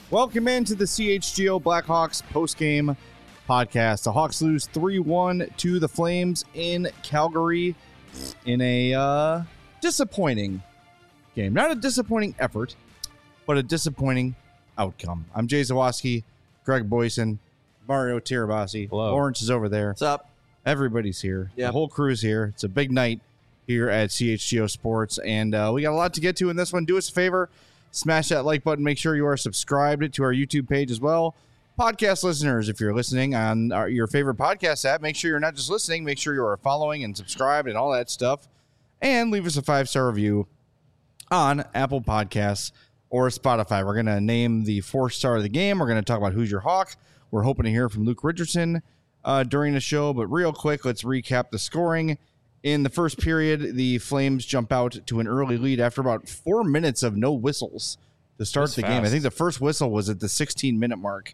Welcome into the CHGO Blackhawks postgame podcast. The Hawks lose 3-1 to the Flames in Calgary in a disappointing game. Not a disappointing effort, but a disappointing outcome. I'm Jay Zawoski, Greg Boyson, Mario Tirabassi. Hello. Lawrence is over there. What's up? Everybody's here. Yep. The whole crew's here. It's a big night here at CHGO Sports, and we got a lot to get to in this one. Do us a favor. Smash that like button. Make sure you are subscribed to our YouTube page as well. Podcast listeners, if you're listening on your favorite podcast app, make sure you're not just listening. Make sure you are following and subscribed and all that stuff. And leave us a 5-star review on Apple Podcasts or Spotify. We're going to name the 4th star of the game. We're going to talk about who's your Hawk. We're hoping to hear from Luke Richardson during the show. But real quick, let's recap the scoring. In the first period, the Flames jump out to an early lead after about 4 minutes of no whistles to start the game. I think the first whistle was at the 16-minute mark.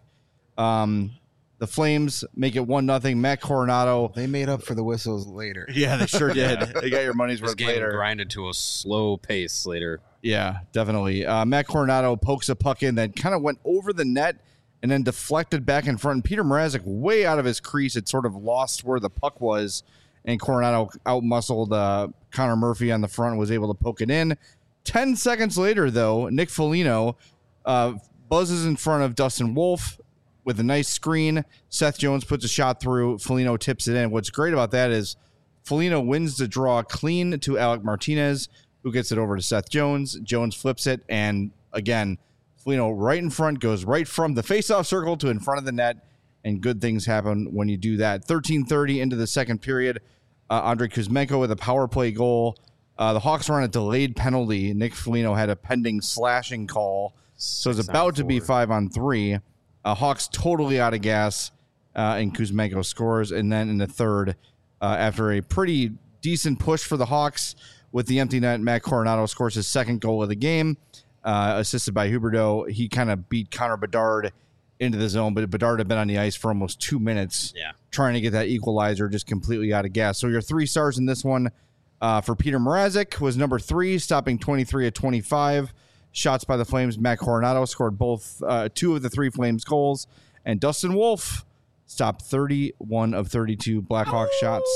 The Flames make it 1-0. Matt Coronado. They made up for the whistles later. Yeah, they sure did. They got your money's This worth game later. grinded to a slow pace later. Yeah, definitely. Matt Coronado pokes a puck in that kind of went over the net and then deflected back in front. And Peter Mrazek, way out of his crease, had sort of lost where the puck was. And Coronado outmuscled Connor Murphy on the front and was able to poke it in. 10 seconds later, though, Nick Foligno buzzes in front of Dustin Wolf with a nice screen. Seth Jones puts a shot through. Foligno tips it in. What's great about that is Foligno wins the draw clean to Alec Martinez, who gets it over to Seth Jones. Jones flips it, and again, Foligno right in front, goes right from the faceoff circle to in front of the net, and good things happen when you do that. 13:30 into the second period. Andrei Kuzmenko with a power play goal. The Hawks were on a delayed penalty. Nick Foligno had a pending slashing call, so it's about to be 5-on-3. Hawks totally out of gas, and Kuzmenko scores. And then in the third, after a pretty decent push for the Hawks with the empty net, Matt Coronado scores his second goal of the game, assisted by Huberdeau. He kind of beat Connor Bedard into the zone, but Bedard had been on the ice for almost 2 minutes trying to get that equalizer, just completely out of gas. So your 3 stars in this one for Peter Mrazek was number 3, stopping 23 of 25 shots by the Flames. Matt Coronado scored both 2 of the 3 Flames goals, and Dustin Wolf stopped 31 of 32 Blackhawk shots.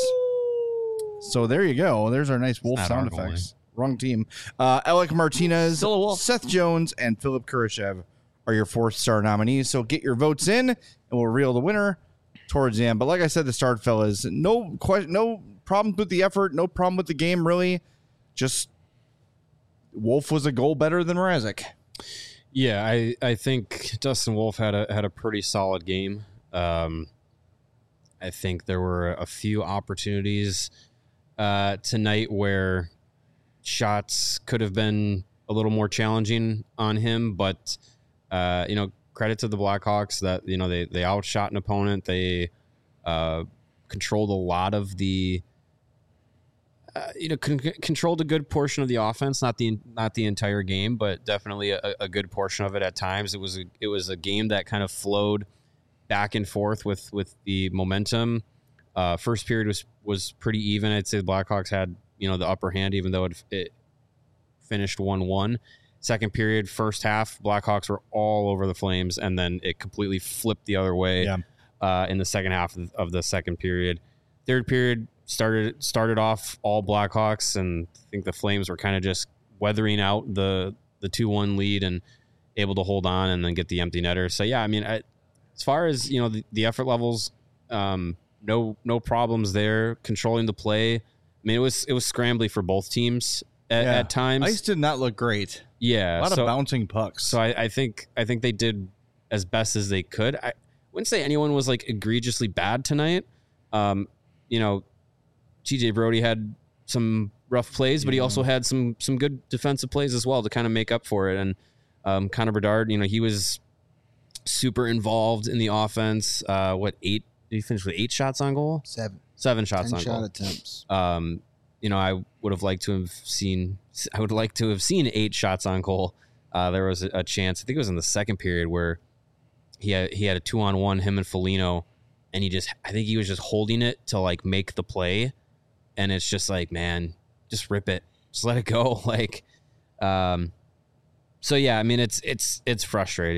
So there you go. There's our nice Wolf sound effects. Wrong team. Alec Martinez, Seth Jones, and Philip Kurashev are your 4th star nominees. So get your votes in, and we'll reveal the winner towards the end. But like I said, the start, fellas, no problems with the effort, no problem with the game, really. Just Wolf was a goal better than Mrazek. Yeah, I think Dustin Wolf had a pretty solid game. I think there were a few opportunities tonight where shots could have been a little more challenging on him, but credit to the Blackhawks that, they outshot an opponent. They controlled a lot of the, controlled a good portion of the offense, not the entire game, but definitely a good portion of it at times. It was a game that kind of flowed back and forth with the momentum. First period was pretty even. I'd say the Blackhawks had, the upper hand, even though it finished 1-1. Second period, first half, Blackhawks were all over the Flames, and then it completely flipped the other way in the second half of the second period. Third period started off all Blackhawks, and I think the Flames were kind of just weathering out the 2-1 lead and able to hold on and then get the empty netter. So, yeah, I mean, as far as, the effort levels, no problems there. Controlling the play. I mean, it was scrambly for both teams at times. Ice did not look great. Yeah, a lot of bouncing pucks. So I think they did as best as they could. I wouldn't say anyone was like egregiously bad tonight. TJ Brody had some rough plays, but he also had some good defensive plays as well to kind of make up for it. And Connor Bedard, he was super involved in the offense. Did he finish with 8 shots on goal? 7 shots on goal. 10 shot attempts. I would have liked to have seen 8 shots on goal. There was a chance, I think it was in the second period, where he had a 2-on-1, him and Foligno, and I think he was just holding it to like make the play. And it's just like, man, just rip it. Just let it go. So yeah, I mean, it's frustrating.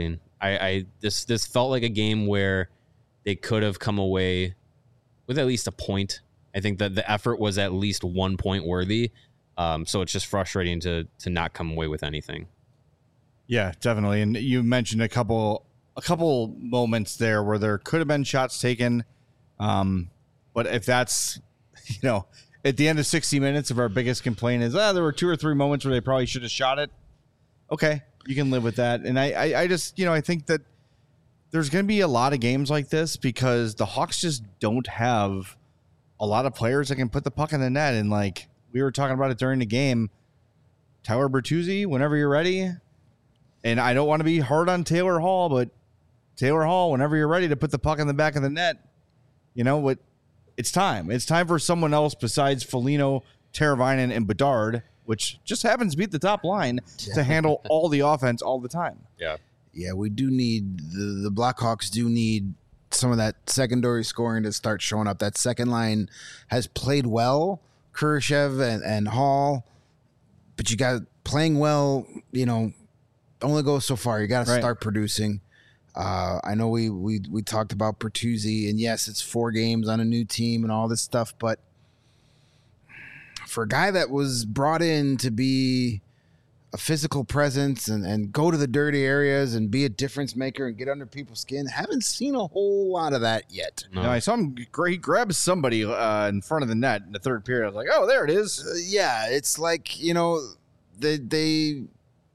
This felt like a game where they could have come away with at least a point. I think that the effort was at least 1 point worthy. So it's just frustrating to not come away with anything. Yeah, definitely. And you mentioned a couple moments there where there could have been shots taken. But if that's, at the end of 60 minutes, if our biggest complaint is, there were 2 or 3 moments where they probably should have shot it. Okay, you can live with that. And I just, I think that there's going to be a lot of games like this because the Hawks just don't have a lot of players that can put the puck in the net. And like we were talking about it during the game, Tyler Bertuzzi, whenever you're ready. And I don't want to be hard on Taylor Hall, but Taylor Hall, whenever you're ready to put the puck in the back of the net, what? It's time. It's time for someone else besides Foligno, Teravainen, and Bedard, which just happens to be at the top line, to handle all the offense all the time. Yeah. Yeah, we do need the Blackhawks do need some of that secondary scoring to start showing up. That second line has played well, Kurashev and Hall, but you got playing well, only goes so far. You got to start producing. I know we talked about Bertuzzi, and yes, it's 4 games on a new team and all this stuff, but for a guy that was brought in to be a physical presence and go to the dirty areas and be a difference maker and get under people's skin, haven't seen a whole lot of that yet. No, I saw him. He grabs somebody in front of the net in the third period. I was like, oh, there it is. Yeah, it's like, they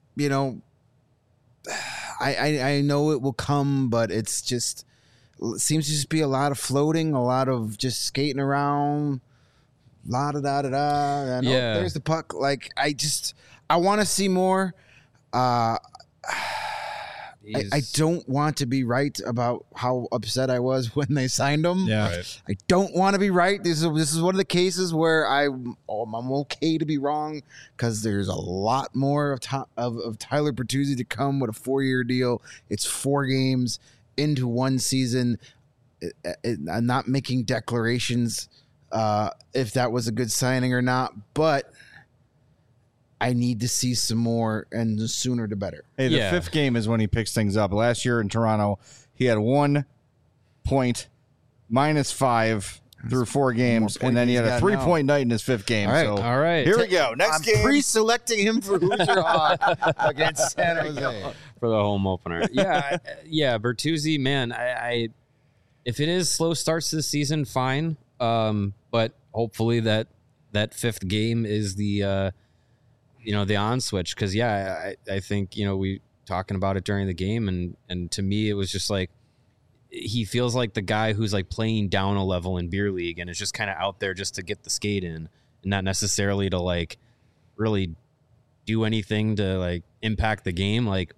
I know it will come, but it seems to just be a lot of floating, a lot of just skating around, la-da-da-da-da. Yeah. There's the puck. Like, I want to see more. I don't want to be right about how upset I was when they signed him. Yeah. Right. I don't want to be right. This is one of the cases where I'm okay to be wrong because there's a lot more of Tyler Bertuzzi to come with a 4-year deal. It's 4 games into one season. I'm not making declarations if that was a good signing or not, but I need to see some more, and the sooner the better. Hey, the 5th game is when he picks things up. Last year in Toronto, he had 1 point, -5 through 4 games, and then he had a 3-point night in his 5th game. All right. Here we go. Next game. I'm pre-selecting him for Hoosier Hawk against San Jose for the home opener. Yeah, Bertuzzi, man, I if it is slow starts to the season, fine. But hopefully that 5th game is the the on switch, because I think we talking about it during the game, and to me it was just like he feels like the guy who's like playing down a level in beer league and is just kind of out there just to get the skate in and not necessarily to like really do anything to like impact the game. Like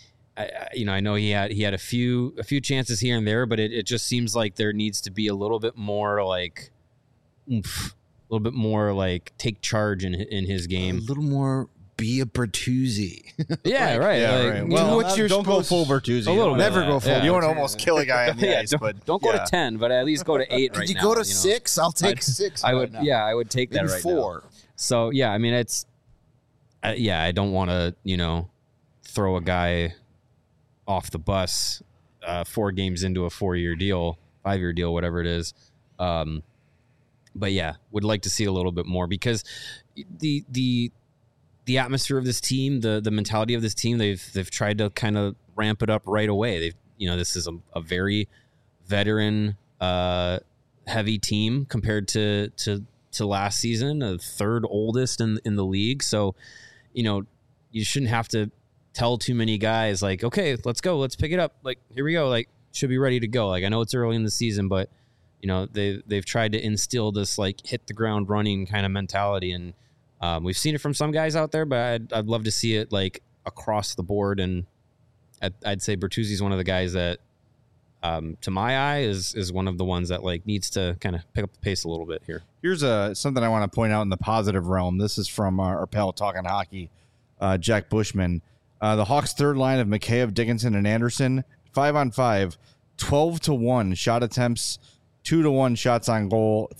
I know he had a few chances here and there, but it just seems like there needs to be a little bit more like oomph. A little bit more like take charge in his game. A little more be a Bertuzzi. Yeah, right. Yeah, like, right. Well, don't go full Bertuzzi. A little never go full. You don't want to almost kill a guy on the ice, but don't go to 10, but at least go to 8 right now. Could you go to 6? I'll take 6. I would. Yeah, I would take that Maybe right 4. now. So yeah, I mean it's. I don't want to throw a guy off the bus 4 games into a 4-year deal, 5-year deal, whatever it is. But yeah, would like to see a little bit more because the atmosphere of this team, the mentality of this team, they've tried to kind of ramp it up right away. This is a very veteran heavy team compared to last season, the 3rd oldest in the league. So, you shouldn't have to tell too many guys like, okay, let's go, let's pick it up. Like, here we go. Like, should be ready to go. Like, I know it's early in the season, but they've tried to instill this like hit the ground running kind of mentality, and we've seen it from some guys out there, but I'd love to see it like across the board. And I'd say Bertuzzi's one of the guys that, to my eye, is one of the ones that like needs to kind of pick up the pace a little bit here. Here's something I want to point out in the positive realm. This is from our pal Talking Hockey, Jack Bushman. The Hawks' 3rd line of Mikheyev, Dickinson, and Anderson, 5-on-5, 12-1 shot attempts, 2-1 shots on goal,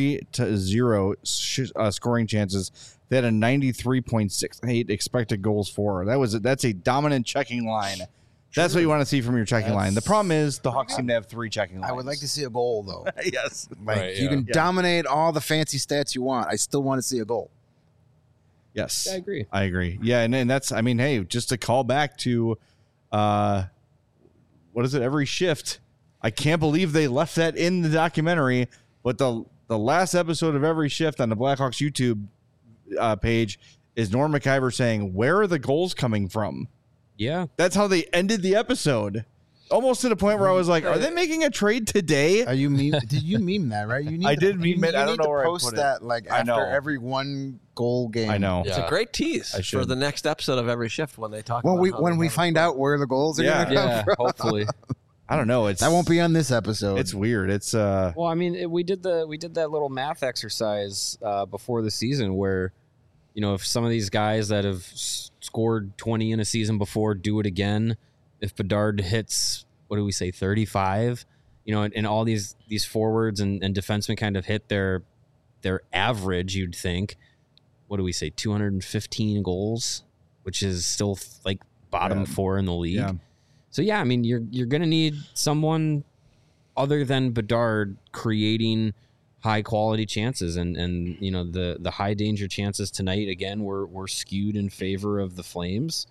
3-0 scoring chances. They had a 93.68 expected goals for. That's a dominant checking line That's what you want to see from your checking line. The problem is the Hawks seem to have 3 checking lines. I would like to see a goal, though. Yes. Like, Right, you yeah. can dominate all the fancy stats you want. I still want to see a goal. Yes. I agree. I agree. Yeah, and that's, I mean, hey, just to call back to, what is it, Every Shift. I can't believe they left that in the documentary, but the last episode of Every Shift on the Blackhawks YouTube page is Norm McIver saying, where are the goals coming from? Yeah. That's how they ended the episode. Almost to the point where I was like, are they making a trade today? Are you meme? Did you meme that, right? You need I to, did meme it. I don't need know to where I post put it. that like I know. after every 1 goal game. I know. It's a great tease I for should. the next episode of Every Shift when they talk When about we how when they we have a find goal. out where the goals are Yeah. going to come Yeah. from. Hopefully. I don't know. It's That won't be on this episode. It's weird. It's Well, I mean, we did that little math exercise before the season where, you know, if some of these guys that have scored 20 in a season before do it again, if Bedard hits, what do we say, 35, you know, and all these forwards and defensemen kind of hit their average, you'd think, what do we say, 215 goals, which is still like bottom 4 in the league. Yeah. So yeah, I mean, you're going to need someone other than Bedard creating high quality chances, and you know the high danger chances tonight again were skewed in favor of the Flames.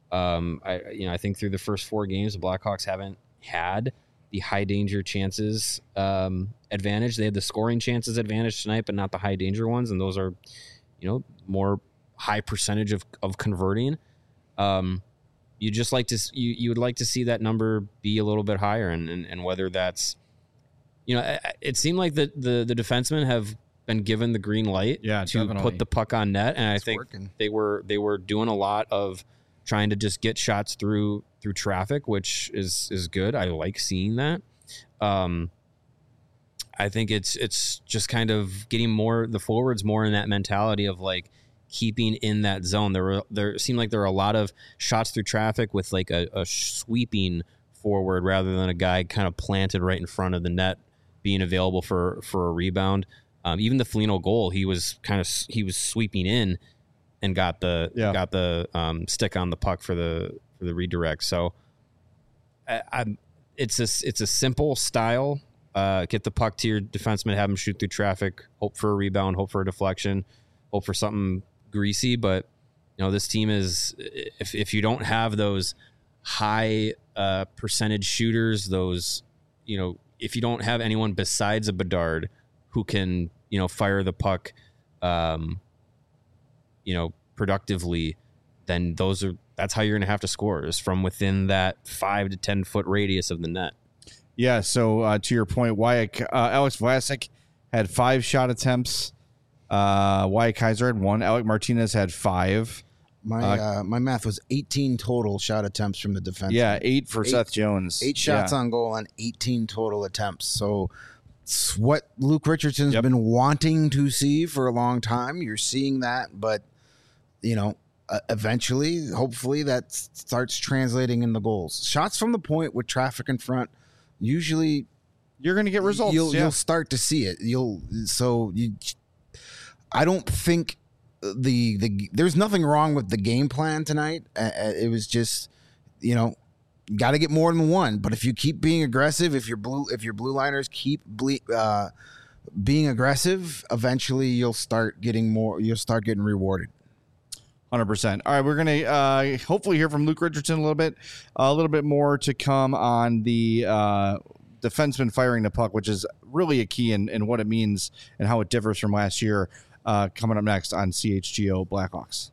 I think through the first 4 games, the Blackhawks haven't had the high danger chances advantage. They had the scoring chances advantage tonight, but not the high danger ones, and those are, you know, more high percentage of converting. You just like to you would like to see that number be a little bit higher, and whether that's, you know, it seemed like the defensemen have been given the green light to definitely. put the puck on net, and I think working. they were doing a lot of trying to just get shots through traffic, which is good. I like seeing that. I think it's just kind of getting the forwards more in that mentality of like keeping in that zone. There seemed like there were a lot of shots through traffic with like a sweeping forward rather than a guy kind of planted right in front of the net being available for a rebound. Even the Foligno goal, he was sweeping in and got the stick on the puck for the redirect. So it's a simple style. Get the puck to your defenseman, have him shoot through traffic, hope for a rebound, hope for a deflection, hope for something greasy. But you know, this team is, if you don't have those high percentage shooters, those, you know, if you don't have anyone besides a Bedard who can, you know, fire the puck, you know, productively, then that's how you're going to have to score, is from within that 5 to 10 foot radius of the net. Yeah, so to your point, Alex Vlasic had 5 shot attempts. Wyatt Kaiser had 1. Alec Martinez had 5. My math was 18 total shot attempts from the defense. Yeah, 8 for Seth Jones. 8 shots on goal on 18 total attempts. So it's what Luke Richardson's been wanting to see for a long time. You're seeing that, but you know, eventually, hopefully, that starts translating into goals. Shots from the point with traffic in front. Usually, You're going to get results. You'll start to see it. I don't think there's nothing wrong with the game plan tonight. It was just, you know, got to get more than one. But if you keep being aggressive, if your blue liners keep being aggressive, eventually you'll start getting more. You'll start getting rewarded. 100%. All right, we're going to hopefully hear from Luke Richardson a little bit more to come on the defenseman firing the puck, which is really a key in what it means and how it differs from last year, coming up next on CHGO Blackhawks.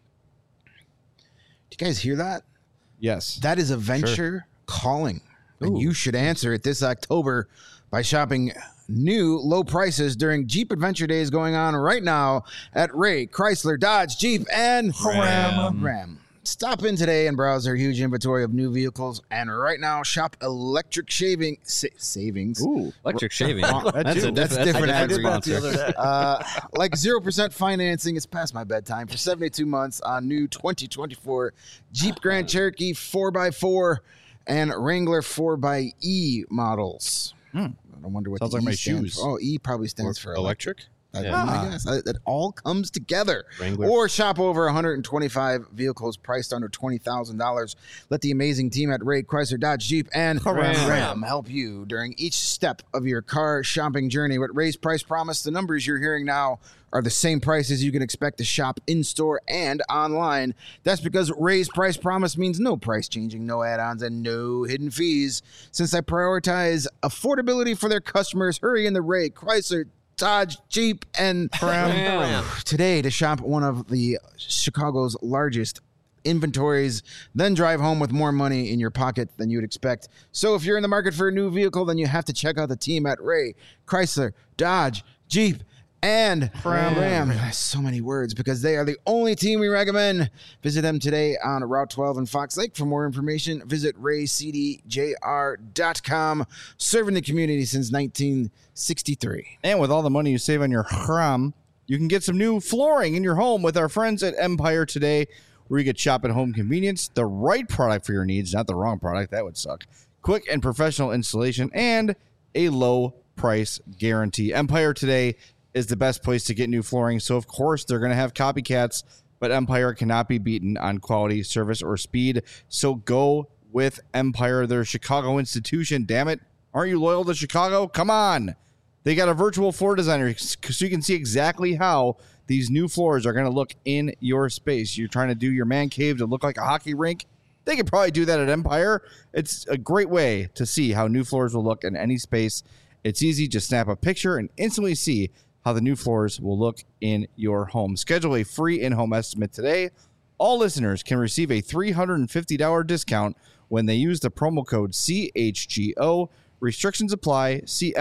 Do you guys hear that? Yes. That is a venture calling. And you should answer it this October by shopping new low prices during Jeep Adventure Days going on right now at Ray Chrysler Dodge Jeep and Ram. Stop in today and browse their huge inventory of new vehicles. And right now, shop electric savings. Ooh. Electric shaving. That's different. I did that the other day. Like 0% financing. It's past my bedtime for 72 months on new 2024 Jeep Grand Cherokee 4x4 and Wrangler 4xe models. I wonder what Sounds the like E my stands shoes. for. Oh, E probably stands for Electric? That's Yeah. my guess. It all comes together. Wrangler. Or shop over 125 vehicles priced under $20,000. Let the amazing team at Ray Chrysler Dodge Jeep and Ram help you during each step of your car shopping journey. With Ray's Price Promise, the numbers you're hearing now are the same prices you can expect to shop in-store and online. That's because Ray's Price Promise means no price changing, no add-ons, and no hidden fees. Since they prioritize affordability for their customers, hurry in the Ray Chrysler Dodge, Jeep, and Ram. today to shop one of the Chicago's largest inventories, then drive home with more money in your pocket than you'd expect. So if you're in the market for a new vehicle, then you have to check out the team at Ray Chrysler Dodge, Jeep, and Ram. So many words because they are the only team we recommend. Visit them today on Route 12 in Fox Lake. For more information, visit raycdjr.com. Serving the community since 1963. And with all the money you save on your Ram, you can get some new flooring in your home with our friends at Empire today, where you get shop at home convenience, the right product for your needs, not the wrong product. That would suck. Quick and professional installation, and a low price guarantee. Empire today is the best place to get new flooring. So, of course, they're going to have copycats, but Empire cannot be beaten on quality, service, or speed. So go with Empire. They're a Chicago institution. Damn it. Aren't you loyal to Chicago? Come on. They got a virtual floor designer so you can see exactly how these new floors are going to look in your space. You're trying to do your man cave to look like a hockey rink. They could probably do that at Empire. It's a great way to see how new floors will look in any space. It's easy. Just snap a picture and instantly see how the new floors will look in your home. Schedule a free in-home estimate today. All listeners can receive a $350 discount when they use the promo code CHGO. Restrictions apply. See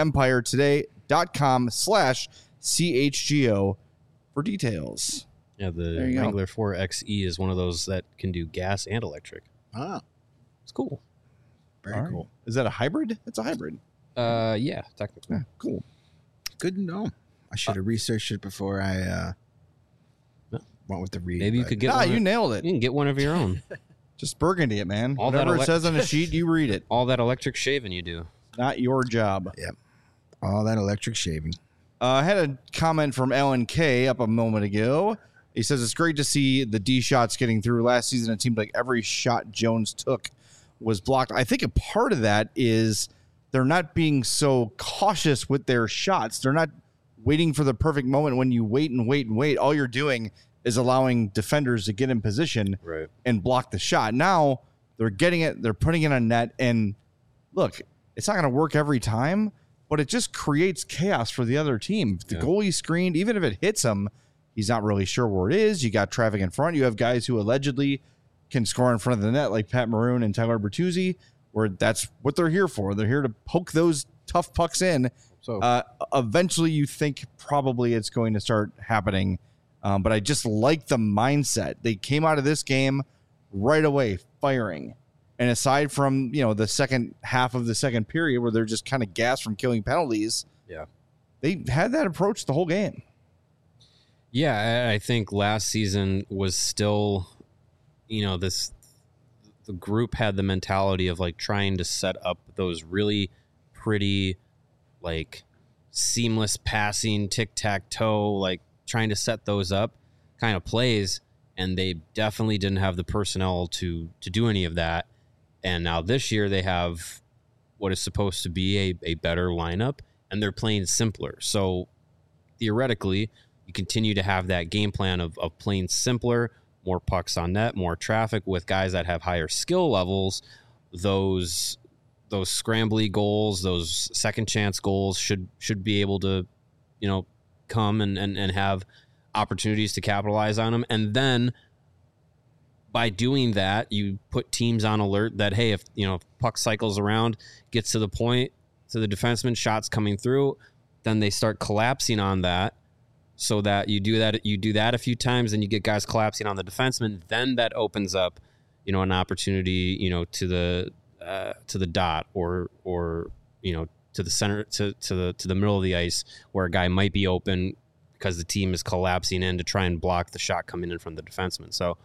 empiretoday.com/CHGO for details. Yeah, There the you go. Wrangler 4XE is one of those that can do gas and electric. Ah, It's cool. very All right. cool. Is that a hybrid? It's a hybrid. Yeah, technically. Yeah, cool. Good to know. I should have researched it before I No. went with the read. Maybe you but- could get Nah, one. you nailed You it. can get one of your own. Just burgundy it, man. All that Whatever it says on a sheet, you read it. All that electric shaving you do. Not your job. all that electric shaving. I had a comment from Alan K up a moment ago. He says it's great to see the D shots getting through. Last season, it seemed like every shot Jones took was blocked. I think a part of that is they're not being so cautious with their shots. They're not waiting for the perfect moment. When you wait and wait and wait, all you're doing is allowing defenders to get in position Right. and block the shot. Now they're getting it, they're putting it on net, and look, it's not going to work every time, but it just creates chaos for the other team. If the goalie screened, even if it hits him, he's not really sure where it is. You got traffic in front. You have guys who allegedly can score in front of the net, like Pat Maroon and Tyler Bertuzzi, where that's what they're here for. They're here to poke those tough pucks in. So Eventually, you think probably it's going to start happening. But I just like the mindset. They came out of this game right away firing. And aside from, the second half of the second period where they're just kind of gassed from killing penalties, yeah. they had that approach the whole game. Yeah, I think last season was still, the group had the mentality of like trying to set up those really pretty, like seamless passing, tic-tac-toe, like trying to set those up kind of plays. And they definitely didn't have the personnel to do any of that. And now this year they have what is supposed to be a better lineup, and they're playing simpler. So theoretically, you continue to have that game plan of playing simpler, more pucks on net, more traffic with guys that have higher skill levels. Those scrambly goals, those second chance goals should be able to, come and have opportunities to capitalize on them. And then by doing that, you put teams on alert that, hey, if puck cycles around, gets to the point, to the defenseman, shots coming through, then they start collapsing on that. So that you do that a few times, and you get guys collapsing on the defenseman. Then that opens up, an opportunity, to the dot or to the center, to the middle of the ice where a guy might be open because the team is collapsing in to try and block the shot coming in from the defenseman. So,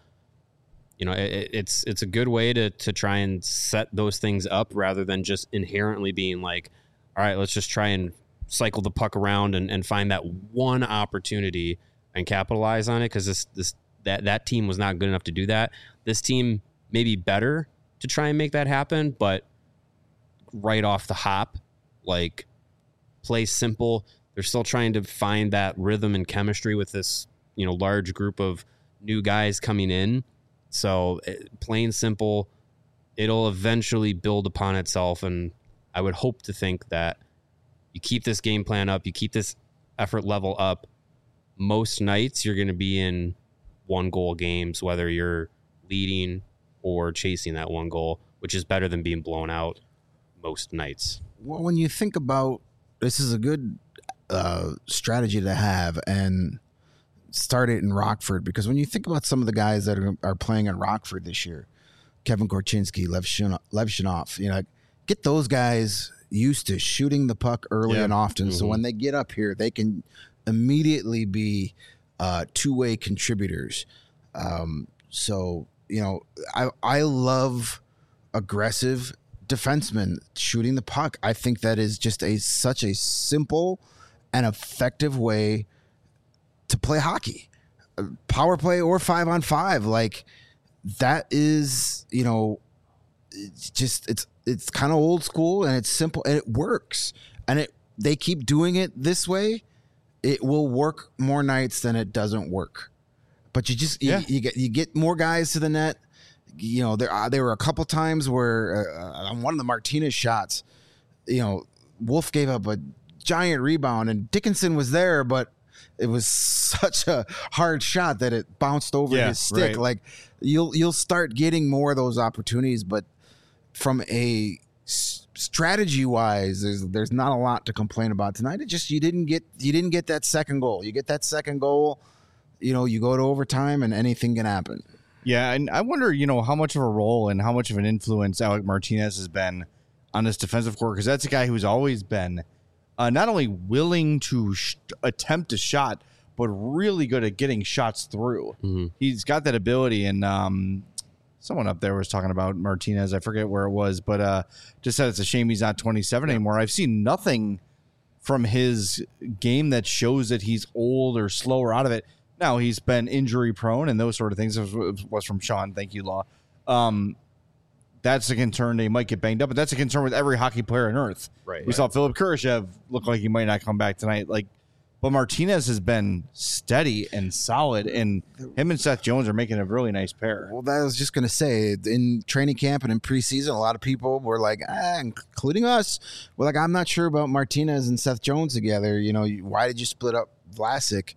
it's a good way to try and set those things up rather than just inherently being like, all right, let's just try and cycle the puck around and find that one opportunity and capitalize on it, because that team was not good enough to do that. This team may be better to try and make that happen, but right off the hop, like, play simple. They're still trying to find that rhythm and chemistry with this, large group of new guys coming in. So plain simple, it'll eventually build upon itself. And I would hope to think that you keep this game plan up, you keep this effort level up. Most nights you're going to be in 1-goal games, whether you're leading or chasing that 1 goal, which is better than being blown out most nights. Well, when you think about, this is a good strategy to have, and start it in Rockford, because when you think about some of the guys that are playing in Rockford this year, Kevin Korchinski, Lev Shinov, get those guys used to shooting the puck early and often. So when they get up here, they can immediately be two-way contributors. So I love aggressive defensemen shooting the puck. I think that is just such a simple and effective way to play hockey, power play or 5-on-5. Like, that is, it's kind of old school, and it's simple, and it works. And they keep doing it this way, it will work more nights than it doesn't work. But you get more guys to the net. There were a couple times where on one of the Martinez shots, Wolf gave up a giant rebound, and Dickinson was there, but it was such a hard shot that it bounced over his stick. Right. Like, you'll start getting more of those opportunities, but from a strategy wise, there's not a lot to complain about tonight. It just you didn't get that second goal. You get that second goal, you go to overtime and anything can happen. Yeah, and I wonder, how much of a role and how much of an influence Alec Martinez has been on this defensive core, because that's a guy who's always been not only willing to attempt a shot, but really good at getting shots through. Mm-hmm. He's got that ability, and someone up there was talking about Martinez. I forget where it was, but just said it's a shame he's not 27 anymore. I've seen nothing from his game that shows that he's old or slow or out of it. Now, he's been injury prone and those sort of things. It was from Sean. Thank you, Law. That's a concern. They might get banged up, but that's a concern with every hockey player on earth. Right. We saw Philip Kurashev look like he might not come back tonight. But Martinez has been steady and solid, and him and Seth Jones are making a really nice pair. Well, that I was just going to say, in training camp and in preseason, a lot of people were like, including us, we're like, I'm not sure about Martinez and Seth Jones together. Why did you split up Vlasic?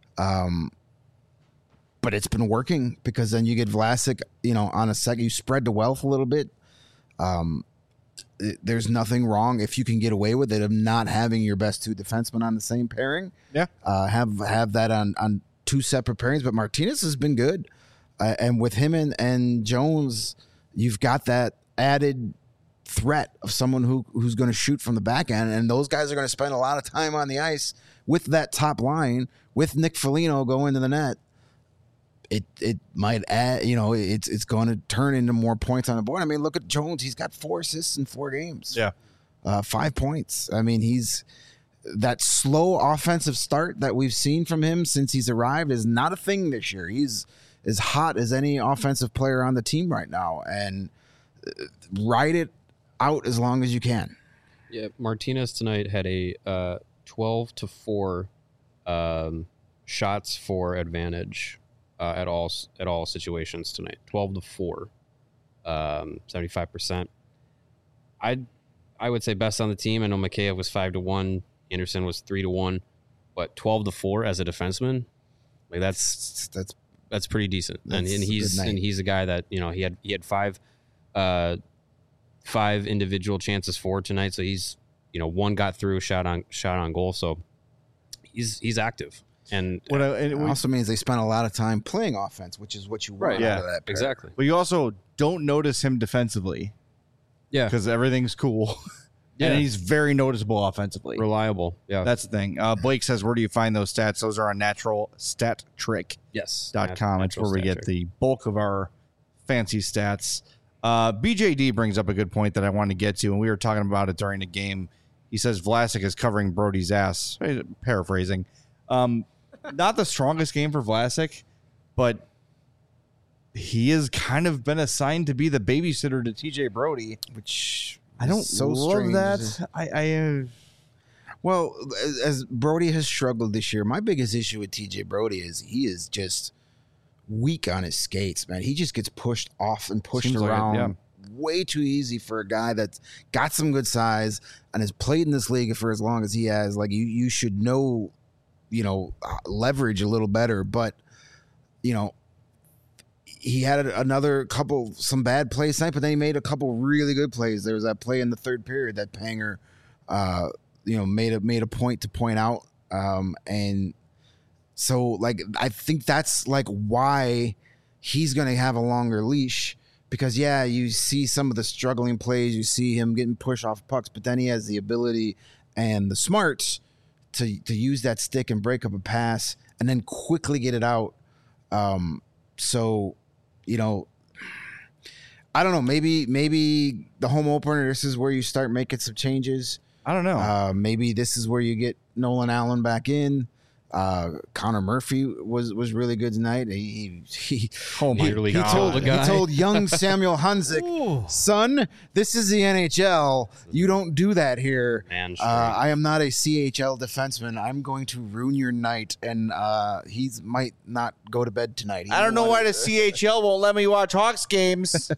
But it's been working, because then you get Vlasic, on a second, you spread the wealth a little bit. There's nothing wrong if you can get away with it of not having your best two defensemen on the same pairing. Yeah. Have that on two separate pairings. But Martinez has been good. And with him and Jones, you've got that added threat of someone who's going to shoot from the back end. And those guys are going to spend a lot of time on the ice with that top line, with Nick Foligno going to the net. It might add, it's going to turn into more points on the board. I mean, look at Jones. He's got 4 assists in 4 games. Yeah. 5 points. I mean, he's that slow offensive start that we've seen from him since he's arrived is not a thing this year. He's as hot as any offensive player on the team right now, and ride it out as long as you can. Yeah. Martinez tonight had a 12-4 shots for advantage. At all situations tonight, 12-4, 75%. I would say best on the team. I know Mikheyev was 5-1, Anderson was 3-1, but 12-4 as a defenseman, like that's pretty decent. And he's a guy that he had five individual chances for tonight, so he's one got through, shot on goal, so he's active. And it also means they spent a lot of time playing offense, which is what you want out of that pair. Exactly. But you also don't notice him defensively. Yeah. Because everything's cool. Yeah. And he's very noticeable offensively. Reliable. Yeah. That's the thing. Blake says, where do you find those stats? Those are on naturalstattrick.com. Yes. It's where we get the bulk of our fancy stats. BJD brings up a good point that I wanted to get to, and we were talking about it during the game. He says Vlasic is covering Brody's ass. Paraphrasing. Not the strongest game for Vlasic, but he has kind of been assigned to be the babysitter to TJ Brody, which I don't so love strange. that. Well, as Brody has struggled this year, my biggest issue with TJ Brody is he is just weak on his skates, man. He just gets pushed off and pushed around way too easy for a guy that's got some good size and has played in this league for as long as he has. Like you should know, leverage a little better. But, he had some bad plays tonight, but then he made a couple really good plays. There was that play in the third period that Panger, made a point to point out. And so, like, I think that's like why he's going to have a longer leash because, you see some of the struggling plays, you see him getting pushed off pucks, but then he has the ability and the smarts to use that stick and break up a pass and then quickly get it out. I don't know. Maybe the home opener, this is where you start making some changes. I don't know. Maybe this is where you get Nolan Allen back in. Connor Murphy was really good tonight. He told young Samuel Hunzik, son, this is the NHL. You don't do that here. I am not a CHL defenseman. I'm going to ruin your night, and he might not go to bed tonight. I don't know why the CHL won't let me watch Hawks games.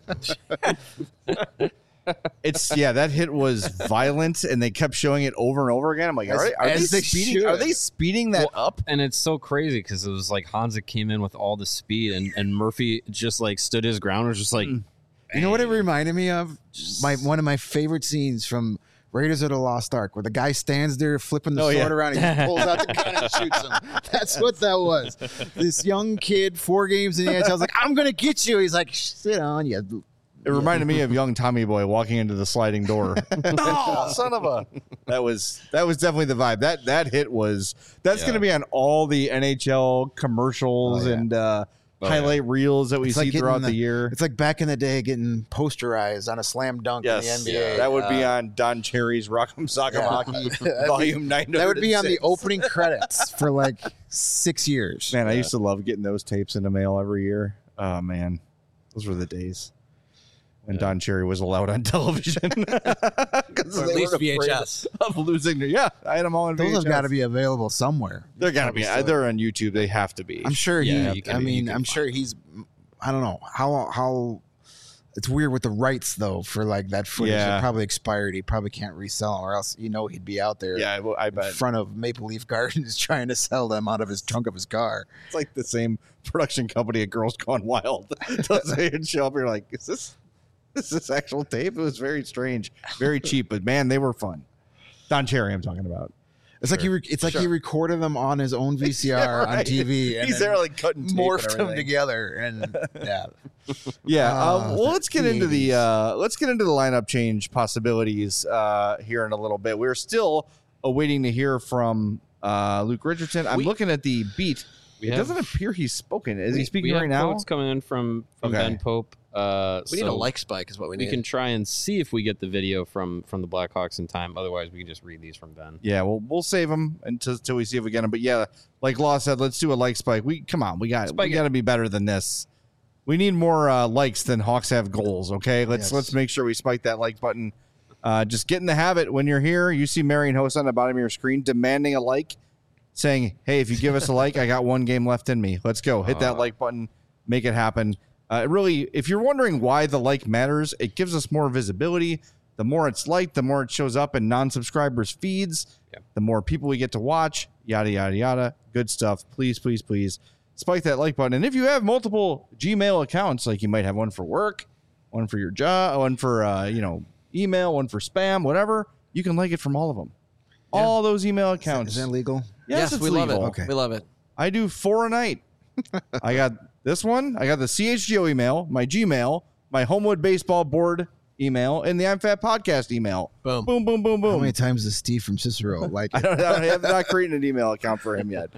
That hit was violent, and they kept showing it over and over again. I'm like, are they speeding that up? And it's so crazy because it was like Hanzik came in with all the speed, and Murphy just like stood his ground and was just like, you know what it reminded me of? One of my favorite scenes from Raiders of the Lost Ark, where the guy stands there flipping the sword around and he pulls out the gun and shoots him. That's what that was. This young kid, 4 games in the NHL, I was like, I'm going to get you. He's like, sit on you. It reminded me of young Tommy Boy walking into the sliding door. Son of a! That was definitely the vibe. That hit was. That's going to be on all the NHL commercials and highlight reels that we see throughout the year. It's like back in the day getting posterized on a slam dunk in the NBA. Yeah, that would be on Don Cherry's Rock'em Sock'em Hockey Volume 906. That would be on the opening credits for like 6 years. Man, I used to love getting those tapes in the mail every year. Oh man, those were the days. When Don Cherry was allowed on television. Because at least VHS. Of losing their, I had them all on VHS. Those have got to be available somewhere. They're got to be. They're on YouTube. They have to be. I'm sure I'm sure he's, I don't know, how it's weird with the rights, though, for like that footage. It probably expired. He probably can't resell them, or else, he'd be out there I bet. in front of Maple Leaf Gardens trying to sell them out of his trunk of his car. It's like the same production company at Girls Gone Wild. They'd show up, you're like, is this actual tape? It was very strange, very cheap, but man, they were fun. Don Cherry, I'm talking about. It's like he recorded them on his own VCR on TV. And he's there like cutting tape morphed them together, and well, let's get into the lineup change possibilities here in a little bit. We're still awaiting to hear from Luke Richardson. I'm looking at the beat. It doesn't appear he's spoken. Is he speaking right now? Quotes coming in from Ben Pope. We need a like spike is what we need. We can try and see if we get the video from the Blackhawks in time. Otherwise, we can just read these from Ben. Yeah, we'll save them until we see if we get them. But yeah, like Law said, let's do a like spike. We got to be better than this. We need more likes than Hawks have goals. Okay, let's make sure we spike that like button. Just get in the habit when you're here. You see Marion Host on the bottom of your screen demanding a like, saying, "Hey, if you give us a like, I got one game left in me. Let's go. Hit that like button. Make it happen." Really, if you're wondering why the like matters, it gives us more visibility. The more it's liked, the more it shows up in non-subscribers' feeds, the more people we get to watch, yada, yada, yada. Good stuff. Please, please, please spike that like button. And if you have multiple Gmail accounts, like you might have one for work, one for your job, one for, email, one for spam, whatever, you can like it from all of them. Yeah. All those email accounts. Is that legal? Yes, we legal. love it. Okay. We love it. I do 4 a night. I got this one. I got the CHGO email, my Gmail, my Homewood Baseball Board email, and the I'm Fat Podcast email. Boom. Boom, boom, boom, boom. How many times does Steve from Cicero like it? I have not created an email account for him yet.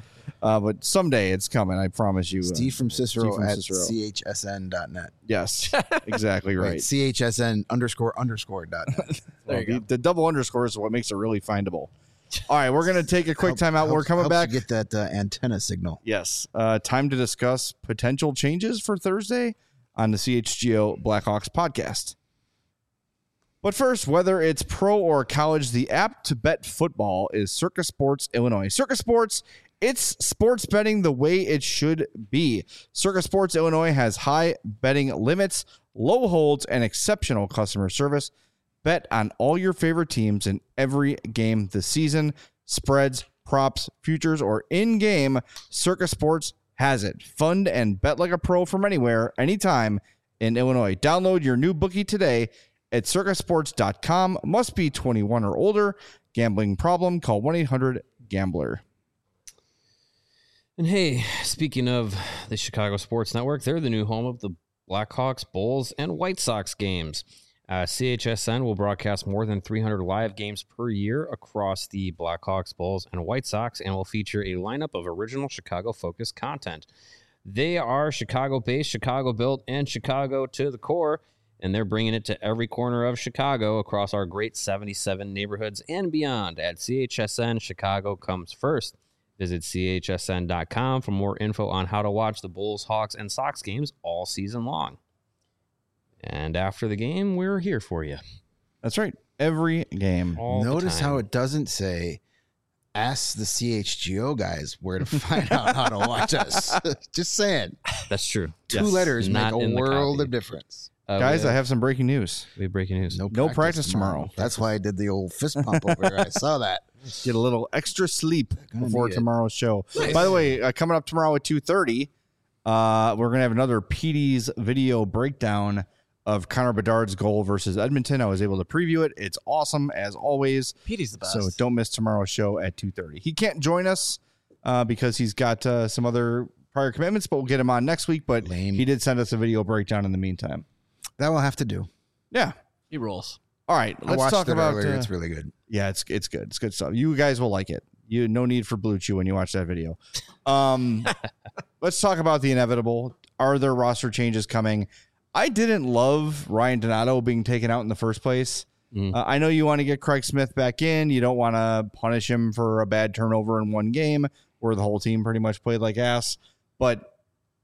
But someday it's coming. I promise you. Steve from Cicero Steve from at Cicero. chsn.net. Yes, exactly right. Right. chsn__.net. There you go. The double underscore is what makes it really findable. All right, we're going to take a quick time out. We're coming back. Get that antenna signal. Yes. Time to discuss potential changes for Thursday on the CHGO Blackhawks podcast. But first, whether it's pro or college, the app to bet football is Circa Sports Illinois. Circa Sports, it's sports betting the way it should be. Circa Sports Illinois has high betting limits, low holds, and exceptional customer service. Bet on all your favorite teams in every game this season. Spreads, props, futures, or in-game, Circa Sports has it. Fund and bet like a pro from anywhere, anytime in Illinois. Download your new bookie today at circasports.com. Must be 21 or older. Gambling problem? Call 1-800-GAMBLER. And hey, speaking of the Chicago Sports Network, they're the new home of the Blackhawks, Bulls, and White Sox games. CHSN will broadcast more than 300 live games per year across the Blackhawks, Bulls, and White Sox, and will feature a lineup of original Chicago-focused content. They are Chicago-based, Chicago-built, and Chicago to the core, and they're bringing it to every corner of Chicago across our great 77 neighborhoods and beyond. At CHSN, Chicago comes first. Visit chsn.com for more info on how to watch the Bulls, Hawks, and Sox games all season long. And after the game, we're here for you. That's right. Every game. Notice how it doesn't say, ask the CHGO guys where to find out how to watch us. Just saying. That's true. Two letters Not make in a the world copy. of difference. Guys, I have some breaking news. We have breaking news. No practice tomorrow. That's why I did the old fist pump over here. I saw that. Get a little extra sleep before need it. tomorrow's show. Nice. By the way, coming up tomorrow at 2:30, we're going to have another PD's video breakdown of Connor Bedard's goal versus Edmonton. I was able to preview it. It's awesome, as always. Petey's the best. So don't miss tomorrow's show at 2:30. He can't join us because he's got some other prior commitments, but we'll get him on next week. But Lame. he did send us a video breakdown in the meantime. That will have to do. Yeah. He rolls. All right. I Let's watched talk it about earlier. It's really good. Yeah, it's good. It's good stuff. You guys will like it. No need for Blue Chew when you watch that video. Let's talk about the inevitable. Are there roster changes coming? I didn't love Ryan Donato being taken out in the first place. I know you want to get Craig Smith back in. You don't want to punish him for a bad turnover in one game where the whole team pretty much played like ass. But